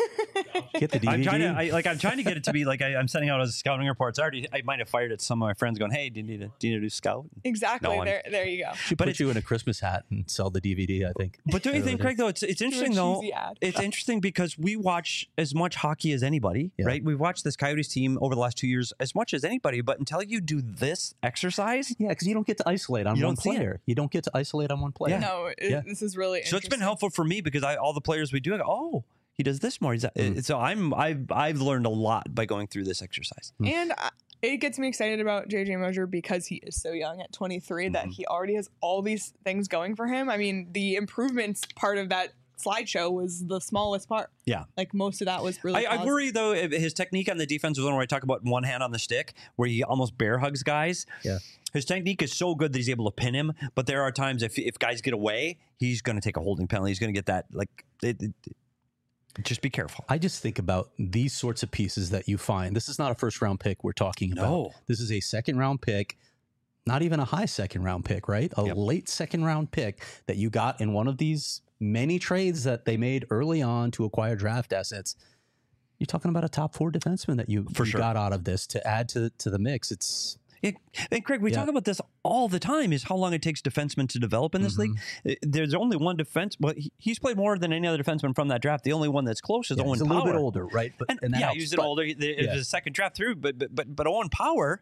Get the D V D. I'm trying to, I, like, I'm trying to get it to be like I, I'm sending out as scouting reports. I already, I might have fired at some of my friends, going, "Hey, do you need to, do you need to do scout?" Exactly. No, there, there you go. Should but put you in a Christmas hat and sell the D V D. I think. But don't you think, Craig? Though it's it's interesting though. It's interesting because we watch as much hockey as anybody, yeah. right? We've watched this Coyotes team over the last two years as much as anybody. But until you do this exercise, yeah, because you don't get to isolate on one player. You don't get to isolate on one player. Yeah. No, it, yeah. this is really so. It's been helpful for me because I all the players we do, I go, oh. He does this more. He's, mm. So I'm I've I've learned a lot by going through this exercise. Mm. And I, it gets me excited about J J Mosier because he is so young at twenty-three mm-hmm. that he already has all these things going for him. I mean, the improvements part of that slideshow was the smallest part. Yeah, like most of that was really. I, I worry though his technique on the defensive zone, where I talk about one hand on the stick, where he almost bear hugs guys. Yeah. His technique is so good that he's able to pin him, but there are times if if guys get away, he's going to take a holding penalty. He's going to get that like. It, it, Just be careful. I just think about these sorts of pieces that you find. This is not a first round pick we're talking about. No. This is a second round pick, not even a high second round pick, right? A yep. late second round pick that you got in one of these many trades that they made early on to acquire draft assets. You're talking about a top four defenseman that you, For you sure. got out of this to add to, to the mix. It's... It, and Craig, we yeah. talk about this all the time, is how long it takes defensemen to develop in this mm-hmm. league. There's only one defense, well, he's played more than any other defenseman from that draft. The only one that's close is yeah, Owen he's a Power. little bit older, right? But, and, and yeah, he was an older. It yeah. was a second draft through, but but but, but Owen Power,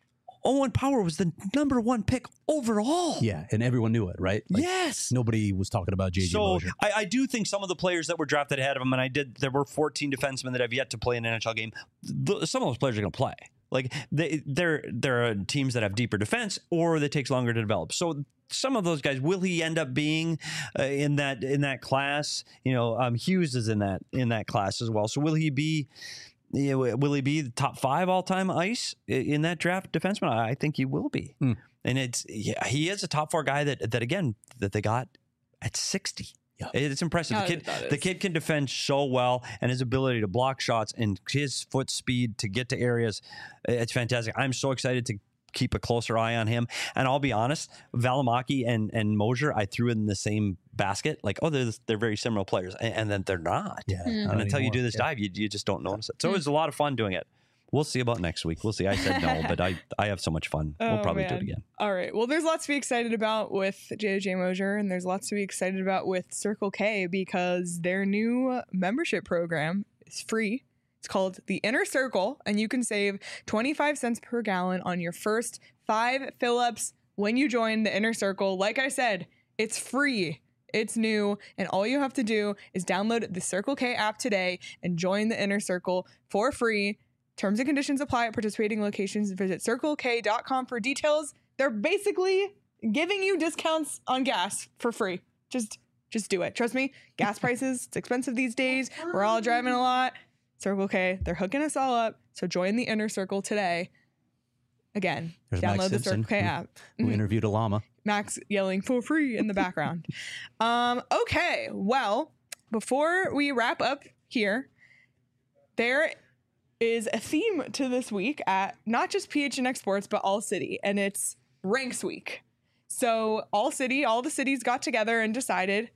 Owen Power was the number one pick overall. Yeah, and everyone knew it, right? Like, yes. Nobody was talking about J J So Mosier. I, I do think some of the players that were drafted ahead of him, and I did, there were fourteen defensemen that have yet to play an N H L game. The, some of those players are going to play. Like they, there, there are teams that have deeper defense, or that takes longer to develop. So some of those guys, will he end up being uh, in that in that class? You know, um, Hughes is in that in that class as well. So will he be? You know, will he be the top five all time ice in that draft defenseman? I think he will be. Mm. And it's yeah, he is a top four guy that that again that they got at sixty. Yeah. It's impressive. Yeah, the kid, the kid can defend so well, and his ability to block shots and his foot speed to get to areas, it's fantastic. I'm so excited to keep a closer eye on him. And I'll be honest, Valimaki and and Mosier, I threw in the same basket. Like, oh, they're they're very similar players, and, and then they're not. Yeah. Mm. And until you do this yeah. dive, you you just don't notice it. So mm. it was a lot of fun doing it. We'll see about next week. We'll see. I said no, but I, I have so much fun. Oh, we'll probably man. do it again. All right. Well, there's lots to be excited about with J J Mosier, and there's lots to be excited about with Circle K because their new membership program is free. It's called the Inner Circle, and you can save twenty-five cents per gallon on your first five fill-ups when you join the Inner Circle. Like I said, it's free. It's new, and all you have to do is download the Circle K app today and join the Inner Circle for free. Terms and conditions apply at participating locations. Visit circle k dot com for details. They're basically giving you discounts on gas for free. Just Just do it. Trust me, gas prices, it's expensive these days. We're all driving a lot. Circle K, they're hooking us all up. So join the inner circle today. Again, There's download Max the Simpson, Circle K app. Who, who interviewed a llama. Max yelling for free in the background. um, okay, well, before we wrap up here, there is a theme to this week at not just P H N X Sports, but All City, and it's Ranks Week. So All City, all the cities got together and decided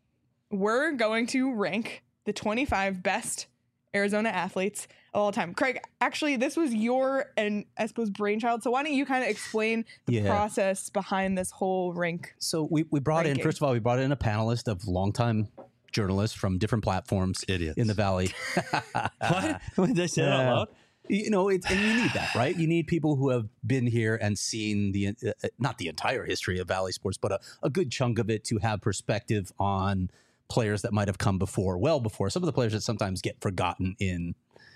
we're going to rank the twenty-five best Arizona athletes of all time. Craig, actually, this was your and I suppose brainchild. So why don't you kind of explain the yeah. process behind this whole rank? So we, we brought ranking. in, first of all, we brought in a panelist of longtime journalists from different platforms Idiots. in the Valley. What? Did they say that out loud? You know, it's, and you need that, right? You need people who have been here and seen the, uh, not the entire history of Valley sports, but a, a good chunk of it to have perspective on players that might have come before, well before. Some of the players that sometimes get forgotten in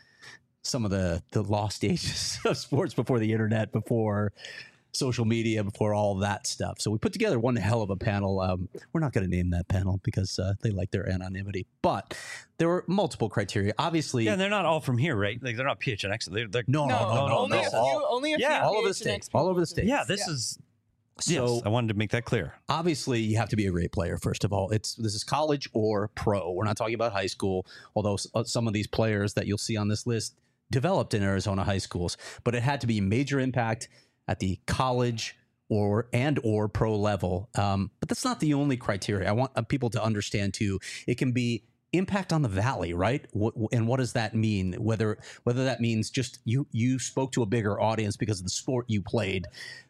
some of the, the lost ages of sports before the internet, before social media, before all that stuff. So we put together one hell of a panel. Um, we're not going to name that panel because uh, they like their anonymity, but there were multiple criteria. Obviously, yeah, and they're not all from here, right? Like they're not P H N X. They're, they're no, no, no, no, only no. a few, all, only a yeah, few all over the state, all over the state. Yeah, this yeah. is. So yes, I wanted to make that clear. Obviously, you have to be a great player. First of all, it's this is college or pro. We're not talking about high school, although some of these players that you'll see on this list developed in Arizona high schools. But it had to be major impact at the college or and or pro level. Um, but that's not the only criteria. I want uh, people to understand too. It can be impact on the Valley, right? What, and what does that mean? Whether whether that means just you you spoke to a bigger audience because of the sport you played,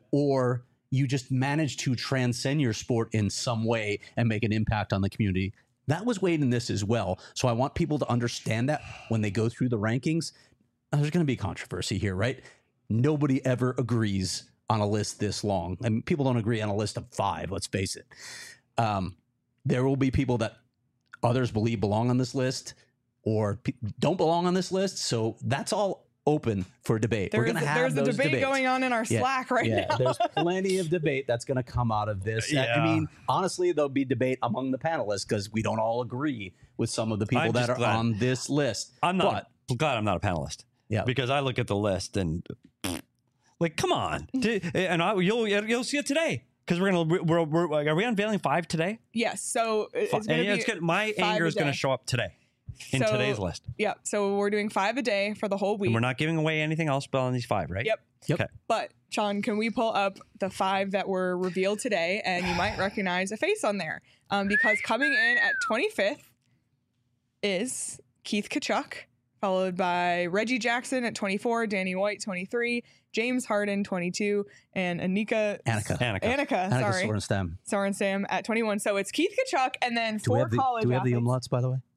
or you just managed to transcend your sport in some way and make an impact on the community. That was weighed in this as well. So I want people to understand that when they go through the rankings. There's going to be controversy here, right? Nobody ever agrees on a list this long. I mean, people don't agree on a list of five, let's face it. Um, there will be people that others believe belong on this list or pe- don't belong on this list. So that's all open for debate. There We're going to have There's those a debate debates. going on in our yeah, Slack right yeah, now. There's plenty of debate that's going to come out of this. Yeah. I mean, honestly, there'll be debate among the panelists because we don't all agree with some of the people I'm that are glad. on this list. I'm not But, glad I'm not a panelist. Yeah, because I look at the list and like, come on, and I, you'll you'll see it today because we're gonna we're, we're are we unveiling five today? Yes. So it's Five. gonna And be it's gonna, my anger is going to show up today in so, today's list. Yeah. So we're doing five a day for the whole week. And we're not giving away anything else but on these five, right? Yep. Yep. Okay. But Sean, can we pull up the five that were revealed today, and you might recognize a face on there, um, because coming in at twenty-fifth is Keith Tkachuk, followed by Reggie Jackson at twenty-four, Danny White twenty-three, James Harden twenty-two, and Anika Annika. Annika. Annika, Annika sorry, Sorenstam. Sorenstam at twenty-one. So it's Keith Tkachuk, and then Do we four have the, college. do we have the athletes. umlauts, by the way?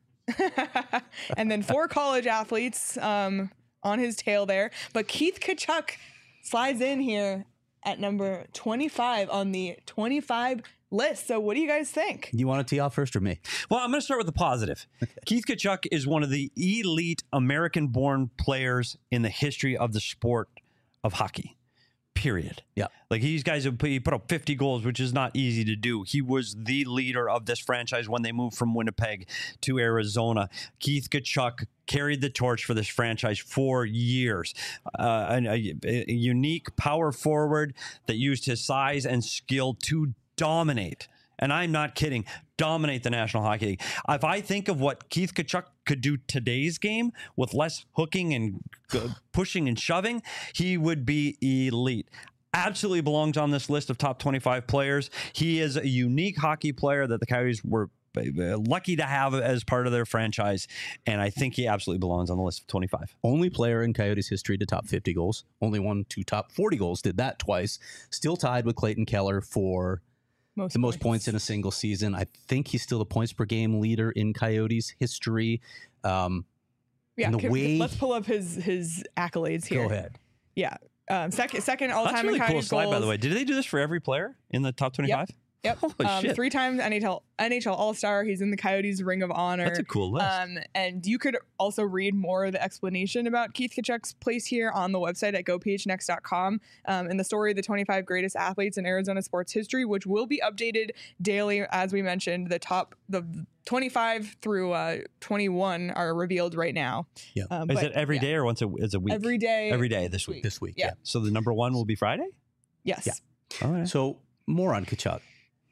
And then four college athletes um, on his tail there. But Keith Tkachuk slides in here at number twenty-five on the twenty-five list. So what do you guys think? You want to tee off first or me? Well, I'm going to start with the positive. Keith Tkachuk is one of the elite American-born players in the history of the sport of hockey. Period. Yeah. Like these guys have put, he put up fifty goals, which is not easy to do. He was the leader of this franchise when they moved from Winnipeg to Arizona. Keith Tkachuk carried the torch for this franchise for years. Uh, a, a, a unique power forward that used his size and skill to dominate. And I'm not kidding. Dominate the National Hockey League. If I think of what Keith Tkachuk could do today's game with less hooking and uh, pushing and shoving, he would be elite. Absolutely belongs on this list of top twenty-five players. He is a unique hockey player that the Coyotes were lucky to have as part of their franchise, and I think he absolutely belongs on the list of twenty-five. Only player in Coyotes history to top fifty goals. Only one to top forty goals. Did that twice. Still tied with Clayton Keller for Most the most points. points in a single season. I think he's still the points per game leader in Coyotes history. Um, yeah, and the can, way, let's pull up his his accolades here. Go ahead. Yeah, um, second second all That's time really in cool Coyotes slide, goals. by the way. Did they do this for every player in the top twenty-five? Yep. Yep. Um, three times N H L N H L All-Star. He's in the Coyotes Ring of Honor. That's a cool list. Um, and you could also read more of the explanation about Keith Tkachuk's place here on the website at go p h next dot com. Um, in the story, the twenty-five greatest athletes in Arizona sports history, which will be updated daily. As we mentioned, the top, the twenty-five through uh, twenty-one are revealed right now. Yeah. Um, is but, it every yeah. day or once a, is a week? Every day. Every day this week. This week. Yeah. yeah. So the number one will be Friday? Yes. Yeah. All right. So more on Tkachuk.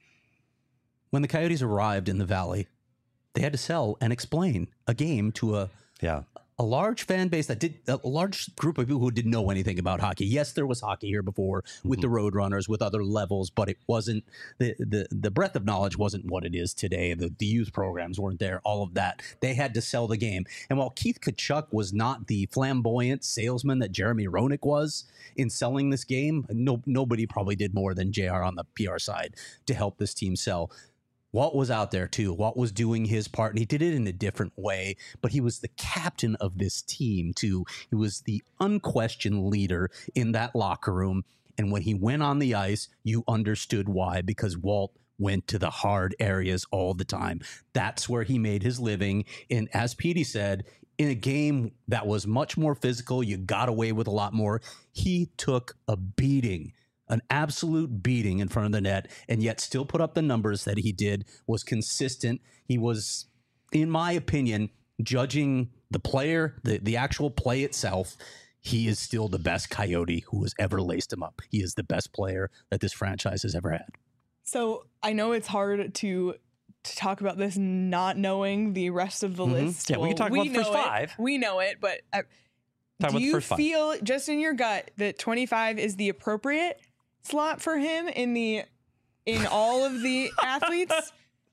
When the Coyotes arrived in the Valley, they had to sell and explain a game to a yeah. a large fan base that did a large group of people who didn't know anything about hockey. Yes, there was hockey here before with mm-hmm. the Roadrunners, with other levels, but it wasn't the the the breadth of knowledge wasn't what it is today. The, the youth programs weren't there. All of that, they had to sell the game. And while Keith Tkachuk was not the flamboyant salesman that Jeremy Roenick was in selling this game, no nobody probably did more than J R on the P R side to help this team sell. Walt was out there too. Walt was doing his part, and he did it in a different way, but he was the captain of this team too. He was the unquestioned leader in that locker room. And when he went on the ice, you understood why, because Walt went to the hard areas all the time. That's where he made his living. And as Petey said, in a game that was much more physical, you got away with a lot more. He took a beating. An absolute beating in front of the net, and yet still put up the numbers that he did, was consistent. He was, in my opinion, judging the player, the, the actual play itself, he is still the best Coyote who has ever laced him up. He is the best player that this franchise has ever had. So I know it's hard to to talk about this not knowing the rest of the mm-hmm. list. Yeah, well, we can talk we about the first five. It. We know it, but uh, talk do you feel five. just in your gut that twenty-five is the appropriate slot for him in the in all of the athletes,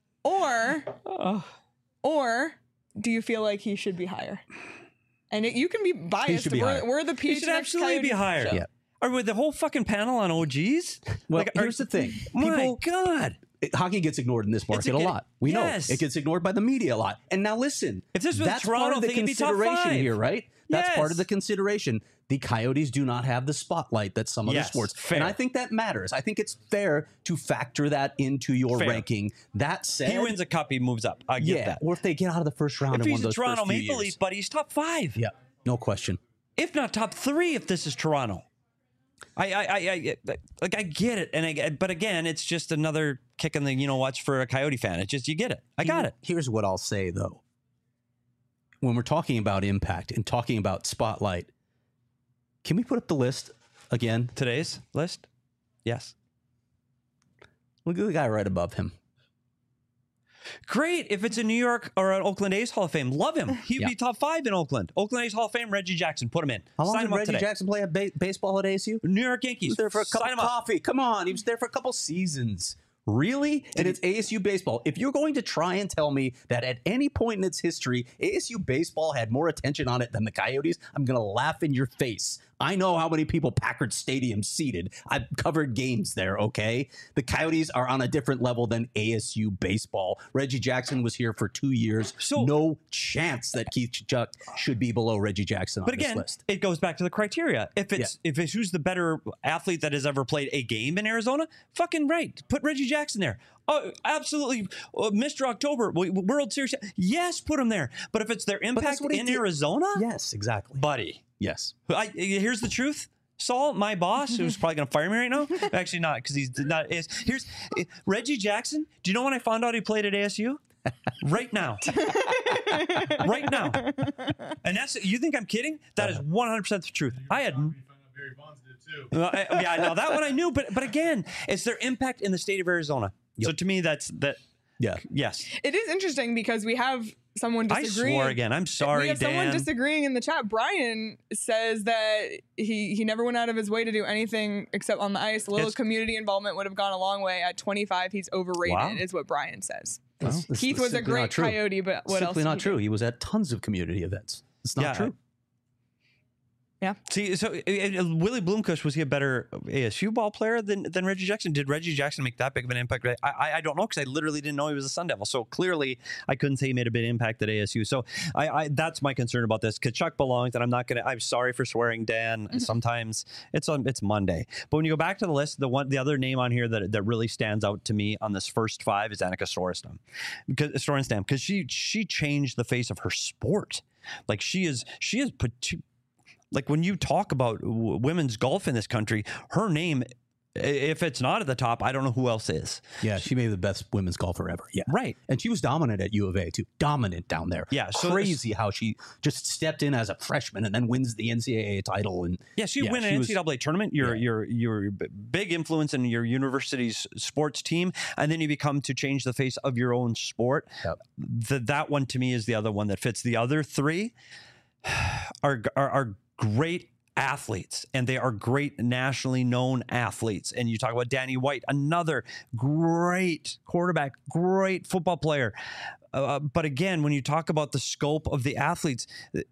or oh. or do you feel like he should be higher? And it, you can be biased. Be we're, we're the P H He should absolutely be higher. Yeah. Are we the whole fucking panel on O Gs? Well, like, here's are, the thing. My People, God. It, hockey gets ignored in this market a, a lot. We yes. know it gets ignored by the media a lot. And now listen, if this was that's Toronto, part of the thing, consideration here, right? That's yes. part of the consideration. The Coyotes do not have the spotlight that some other yes, sports. fair. And I think that matters. I think it's fair to factor that into your fair. ranking. That said, he wins a cup, he moves up. I get yeah, that. Or if they get out of the first round if in he's one of those a Toronto first few Maple years. Leaf, but he's top five. Yeah, no question. If not top three, if this is Toronto. I, I, I, I like, I get it, and I, but again, it's just another kick in the you know what's for a Coyote fan. It's just you get it. I got Here, it. Here's what I'll say though: when we're talking about impact and talking about spotlight, can we put up the list again? Today's list? Yes. Look at the guy right above him. Great. If it's a New York or an Oakland A's Hall of Fame, love him. He'd yeah. be top five in Oakland. Oakland A's Hall of Fame, Reggie Jackson. Put him in. How long Sign did him up Reggie today. Jackson play at ba- baseball at A S U? New York Yankees. He was there for a cup Sign of him coffee. Up. Come on. He was there for a couple seasons. Really? And it's A S U baseball. If you're going to try and tell me that at any point in its history, A S U baseball had more attention on it than the Coyotes, I'm going to laugh in your face. I know how many people Packard Stadium seated. I've covered games there, okay? The Coyotes are on a different level than A S U baseball. Reggie Jackson was here for two years. So, no chance that Keith Tkachuk should be below Reggie Jackson on but again, this list. It goes back to the criteria. If it's yeah. if it's who's the better athlete that has ever played a game in Arizona, fucking right. Put Reggie Jackson there. Oh, absolutely. Uh, Mister October, World Series. Yes, put him there. But if it's their impact in did. Arizona? Yes, exactly. Buddy. Yes. I, here's the truth. Saul, my boss, who's probably going to fire me right now. Actually not, because he's not. Is, here's Reggie Jackson. Do you know when I found out he played at A S U? Right now. Right now. And that's, you think I'm kidding? That is one hundred percent the truth. I had... Uh, I, yeah, no, that one I knew, but but again, it's their impact in the state of Arizona. Yep. So to me, that's that. Yeah. Yes. It is interesting because we have someone disagreeing. I swore again. I'm sorry, we have Dan. someone disagreeing in the chat. Brian says that he he never went out of his way to do anything except on the ice. A little it's, community involvement would have gone a long way. At twenty-five, he's overrated, wow. is what Brian says. Well, this, Keith this was a great Coyote, but what simply else? Simply not true. He was at tons of community events. It's not yeah. true. Yeah. See, so uh, Willie Bloomquist, was he a better A S U ball player than, than Reggie Jackson? Did Reggie Jackson make that big of an impact? I I, I don't know, because I literally didn't know he was a Sun Devil. So clearly, I couldn't say he made a big impact at A S U. So I, I that's my concern about this. Tkachuk belongs, and I'm not gonna. I'm sorry for swearing, Dan. Mm-hmm. Sometimes it's on it's Monday, but when you go back to the list, the one the other name on here that that really stands out to me on this first five is Annika Sorenstam, because Sorenstam, because she she changed the face of her sport. Like she is she is. Like when you talk about w- women's golf in this country, her name, if it's not at the top, I don't know who else is. Yeah, she may be the best women's golfer ever. Yeah, right. And she was dominant at U of A too. Dominant down there. Yeah, so crazy how she just stepped in as a freshman and then wins the N C double A title. And yeah, so you yeah, win an N C double A was, tournament. You're yeah. you're you're big influence in your university's sports team, and then you become to change the face of your own sport. Yep. The, that one to me is the other one that fits. The other three are are. are great athletes, and they are great nationally known athletes. And you talk about Danny White, another great quarterback, great football player. Uh, but again, when you talk about the scope of the athletes,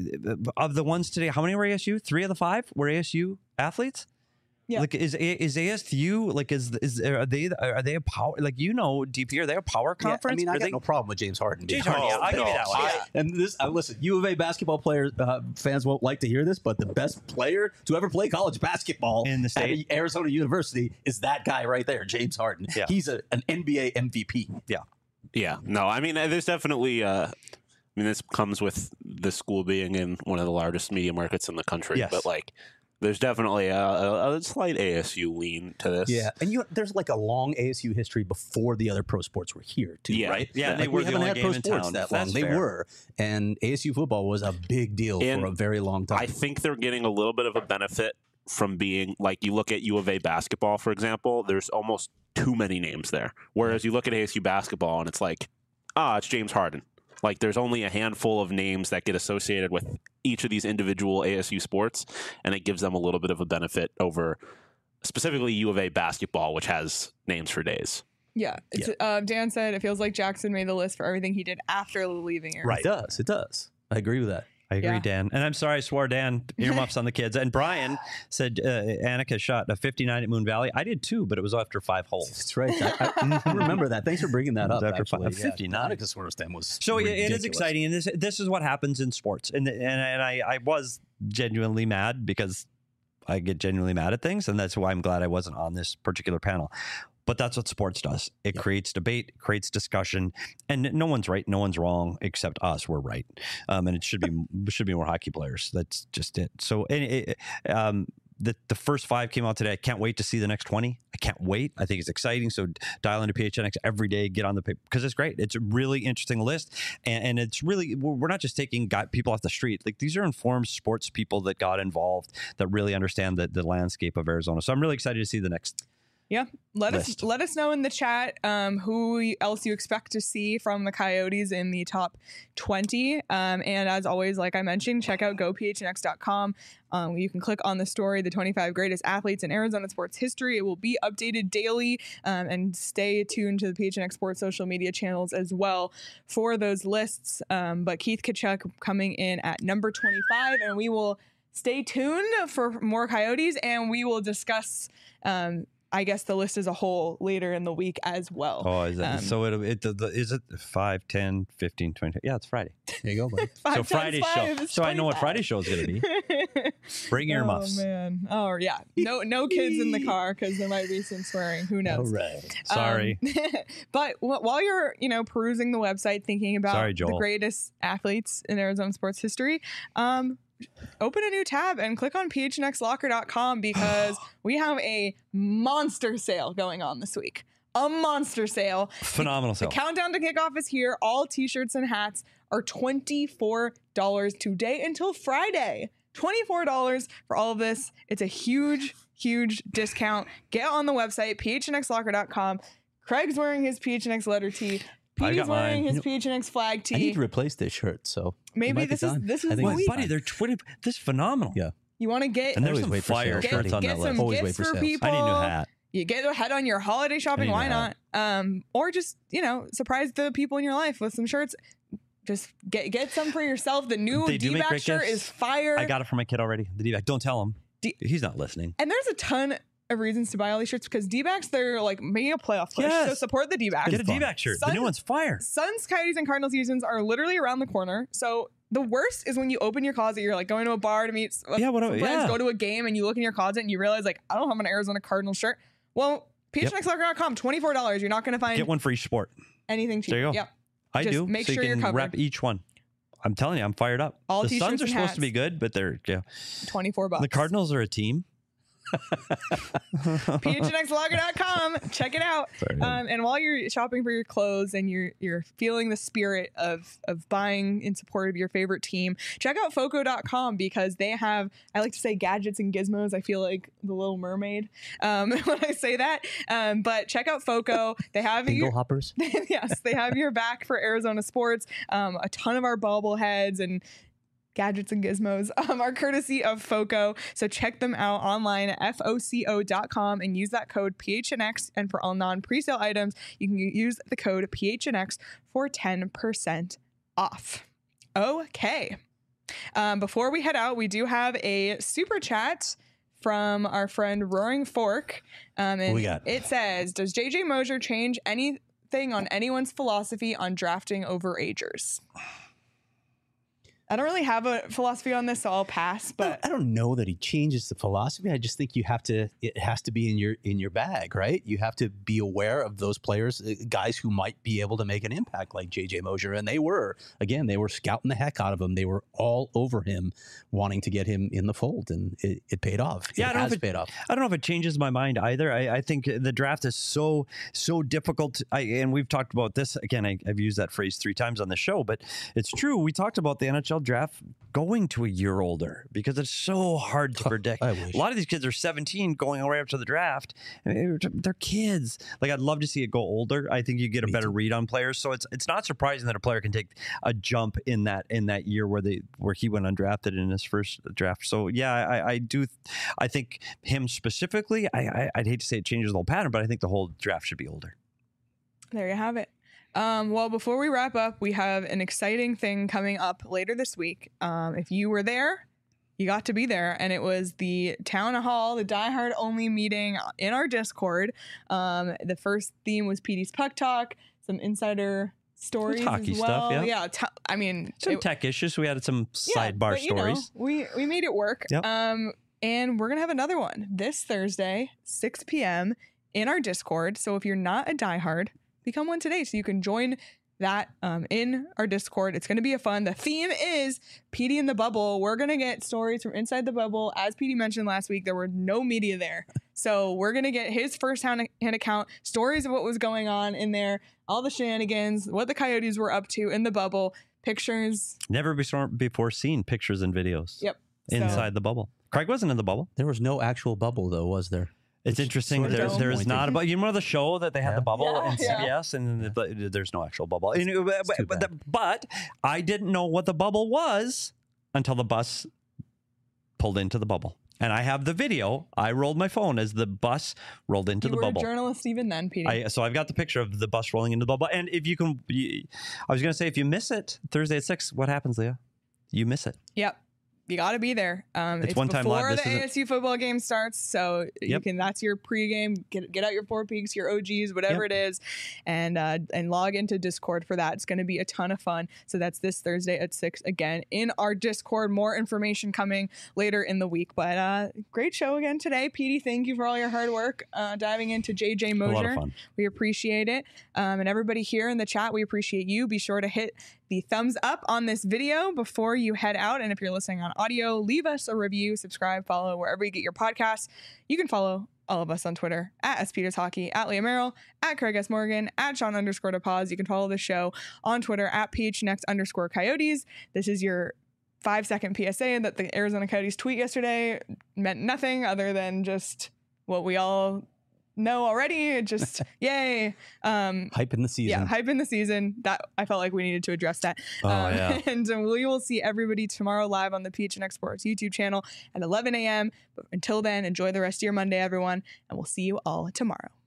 of the ones today, how many were A S U? Three of the five were A S U athletes? Yeah. Like is is A S U like is is are they are they a power, like, you know, D P, are they a power conference? Yeah, I mean, I are got they, no problem with James Harden. James Harden, yeah, I'll no, give you that one. I, and this, uh, listen, U of A basketball players uh, fans won't like to hear this, but the best player to ever play college basketball in the state, at Arizona University, is that guy right there, James Harden. Yeah. He's a, an N B A M V P. Yeah, yeah. No, I mean, there's definitely. Uh, I mean, this comes with the school being in one of the largest media markets in the country, yes. but like. There's definitely a, a, a slight A S U lean to this. Yeah, and you there's like a long A S U history before the other pro sports were here, too, yeah. right? Yeah, like they were we the haven't only had game pro in sports town. that That's long. fair. They were, and A S U football was a big deal and for a very long time. I think they're getting a little bit of a benefit from being, like, you look at U of A basketball, for example, there's almost too many names there. Whereas you look at A S U basketball, and it's like, ah, it's James Harden. Like, there's only a handful of names that get associated with each of these individual A S U sports, and it gives them a little bit of a benefit over specifically U of A basketball, which has names for days. Yeah. It's, yeah. Uh, Dan said it feels like Jackson made the list for everything he did after leaving Arizona. Right. It does. It does. I agree with that. I agree, yeah. Dan. And I'm sorry I swore, Dan. Earmuffs on the kids. And Brian said uh, Annika shot a fifty-nine at Moon Valley. I did too, but it was after five holes. That's right. I, I, I remember that. Thanks for bringing that up. After actually. five, fifty-nine. Yeah, Annika Sorenstam was so ridiculous. It is exciting, and this this is what happens in sports. And and and I, I was genuinely mad because I get genuinely mad at things, and that's why I'm glad I wasn't on this particular panel. But that's what sports does. It yep. creates debate, creates discussion, and no one's right, no one's wrong, except us. We're right, um, and it should be should be more hockey players. That's just it. So, it, um, the the first five came out today. I can't wait to see the next twenty. I can't wait. I think it's exciting. So dial into P H N X every day. Get on the paper because it's great. It's a really interesting list, and, and it's really we're not just taking guy, people off the street. Like these are informed sports people that got involved that really understand the the landscape of Arizona. So I'm really excited to see the next. Yeah, let list. us let us know in the chat um, who else you expect to see from the Coyotes in the top twenty. Um, and as always, like I mentioned, check out go P H N X dot com. Um, you can click on the story, the twenty-five greatest athletes in Arizona sports history. It will be updated daily, um, and stay tuned to the P H N X Sports social media channels as well for those lists. Um, but Keith Tkachuk coming in at number twenty-five, and we will stay tuned for more Coyotes, and we will discuss um, I guess the list as a whole later in the week as well. Oh, is that, um, so it, it, the, the, is it five, ten, fifteen, twenty? Yeah, it's Friday. There you go, buddy. So Friday show. So I know what Friday show is going to be. Bring your oh, muffs. Oh, man. Oh, yeah. No no kids in the car because there might be some swearing. Who knows? All right. Sorry. Um, but w- while you're, you know, perusing the website, thinking about Sorry, the greatest athletes in Arizona sports history, um, open a new tab and click on P H N X locker dot com because we have a monster sale going on this week. A monster sale. Phenomenal sale. The countdown to kickoff is here. All t-shirts and hats are twenty-four dollars today until Friday. twenty-four dollars for all of this. It's a huge, huge discount. Get on the website, P H N X locker dot com. Craig's wearing his P H N X letter tee. Pete's wearing mine. his P H N X flag tee. I need to replace this shirt, so maybe this is this is the Wait, week. buddy, they're twenty. This is phenomenal. Yeah. You want to get And there's always some wait for fire sales. shirts get, on get that some list. Always gifts wait for for sales. people. I need a new hat. You get ahead on your holiday shopping. I need a Why hat. not? Um, or just you know surprise the people in your life with some shirts. just get get some for yourself. The new They do make D-back great shirt gifts. is fire. I got it for my kid already. The D-back. Don't tell him. D- He's not listening. And there's a ton of reasons to buy all these shirts because D-backs, they're like making a playoff push. Yes. So support the D-backs. Get a D-back shirt. Sun- the new one's fire. Suns, Coyotes, and Cardinals seasons are literally around the corner. So the worst is when you open your closet, you're like going to a bar to meet s- Yeah, what- some friends, yeah. go to a game, and you look in your closet and you realize like, I don't have an Arizona Cardinals shirt. Well, P H N X locker dot com, twenty-four dollars. You're not going to find Get one for each sport. anything cheap. There you go. Yep. I Just do. make so sure you you're can covered. rep each one. I'm telling you, I'm fired up. All the t-shirts Suns are and supposed hats. to be good, but they're yeah. twenty-four bucks. The Cardinals are a team. P H N X locker dot com. Check it out. Sorry. Um, and while you're shopping for your clothes and you're you're feeling the spirit of of buying in support of your favorite team, check out foco dot com because they have, I like to say gadgets and gizmos. I feel like the Little Mermaid um, when I say that. Um, but check out Foco. They have Bingo your, hoppers. yes, they have your back for Arizona sports. Um, a ton of our bobbleheads and gadgets and gizmos um, are courtesy of Foco. So check them out online at foco dot com and use that code P H N X. And for all non-presale items, you can use the code P H N X for ten percent off. Okay. Um, before we head out, we do have a super chat from our friend Roaring Fork. Um, and What we got? It says, does J J Mosier change anything on anyone's philosophy on drafting overagers? I don't really have a philosophy on this, so I'll pass. But I don't know that he changes the philosophy. I just think you have to. It has to be in your in your bag, right? You have to be aware of those players, uh, guys who might be able to make an impact, like J J Mosier, and they were. Again, they were scouting the heck out of him. They were all over him, wanting to get him in the fold, and it, it paid off. Yeah, it I don't know has if it, paid off. I don't know if it changes my mind either. I, I think the draft is so so difficult. I, and we've talked about this again. I, I've used that phrase three times on the show, but it's true. We talked about the N H L draft going to a year older because it's so hard to predict. I wish. A lot of these kids are seventeen going right up to the draft. I mean, they're kids. Like, I'd love to see it go older. I think you get a Me better too. read on players. So it's it's not surprising that a player can take a jump in that in that year where they where he went undrafted in his first draft. So yeah, I, I do. I think him specifically. I, I I'd hate to say it changes the whole pattern, but I think the whole draft should be older. there you have it. Um, well, before we wrap up, we have an exciting thing coming up later this week. Um, if you were there, you got to be there, and it was the town hall, the Die Hard only meeting in our Discord. Um, the first theme was P D's Puck Talk, some insider stories hockey as stuff, well. yeah. yeah t- I mean, Some it- tech issues. We had some yeah, sidebar but, you know, stories. we we made it work. Yep. Um, and we're gonna have another one this Thursday, six p.m. in our Discord. So if you're not a diehard, become one today, so you can join that um, in our Discord. It's going to be a fun. The theme is P D in the bubble. We're going to get stories from inside the bubble. As P D mentioned last week, there were no media there. So we're going to get his first-hand account, stories of what was going on in there, all the shenanigans, what the Coyotes were up to in the bubble, pictures. Never before before seen pictures and videos. Yep. So- Inside the bubble. Craig wasn't in the bubble. There was no actual bubble, though, was there? It's interesting. sort of There's there is disappointing. not about you know the show that they had Yeah. the bubble Yeah, and yeah. C B S and the, but there's no actual bubble. And, uh, but, too but, bad. the- but I didn't know what the bubble was until the bus pulled into the bubble. And I have the video. I rolled my phone as the bus rolled into You the were bubble. a journalist even then, P D. I, so I've got the picture of the bus rolling into the bubble. And if you can, you, I was going to say, if you miss it Thursday at six, what happens, Leah? You miss it. Yep. You got to be there. Um, It's one time live. before This the isn't- A S U football game starts, so you Yep. can. That's your pregame. Get get out your Four Peaks, your O Gs, whatever Yep. it is, and uh, and log into Discord for that. It's going to be a ton of fun. So that's this Thursday at six again in our Discord. More information coming later in the week. But uh, great show again today, P D. Thank you for all your hard work uh, diving into J J Mosier. A lot of fun. We appreciate it. Um, and everybody here in the chat, we appreciate you. Be sure to hit the thumbs up on this video before you head out. And if you're listening on audio, leave us a review, subscribe, follow wherever you get your podcasts. You can follow all of us on Twitter at S Peters Hockey, at Leah Merrill, at Craig S. Morgan, at Sean underscore DePaz. You can follow the show on Twitter at PHNX underscore Coyotes. This is your five second P S A that the Arizona Coyotes tweet yesterday meant nothing other than just what we all know already. Just yay. Um, Hype in the season. yeah, hype in the season. That I felt like we needed to address that. Oh, yeah. And uh, we will see everybody tomorrow live on the P H N X Sports YouTube channel at eleven a.m. But until then, enjoy the rest of your Monday, everyone, and we'll see you all tomorrow.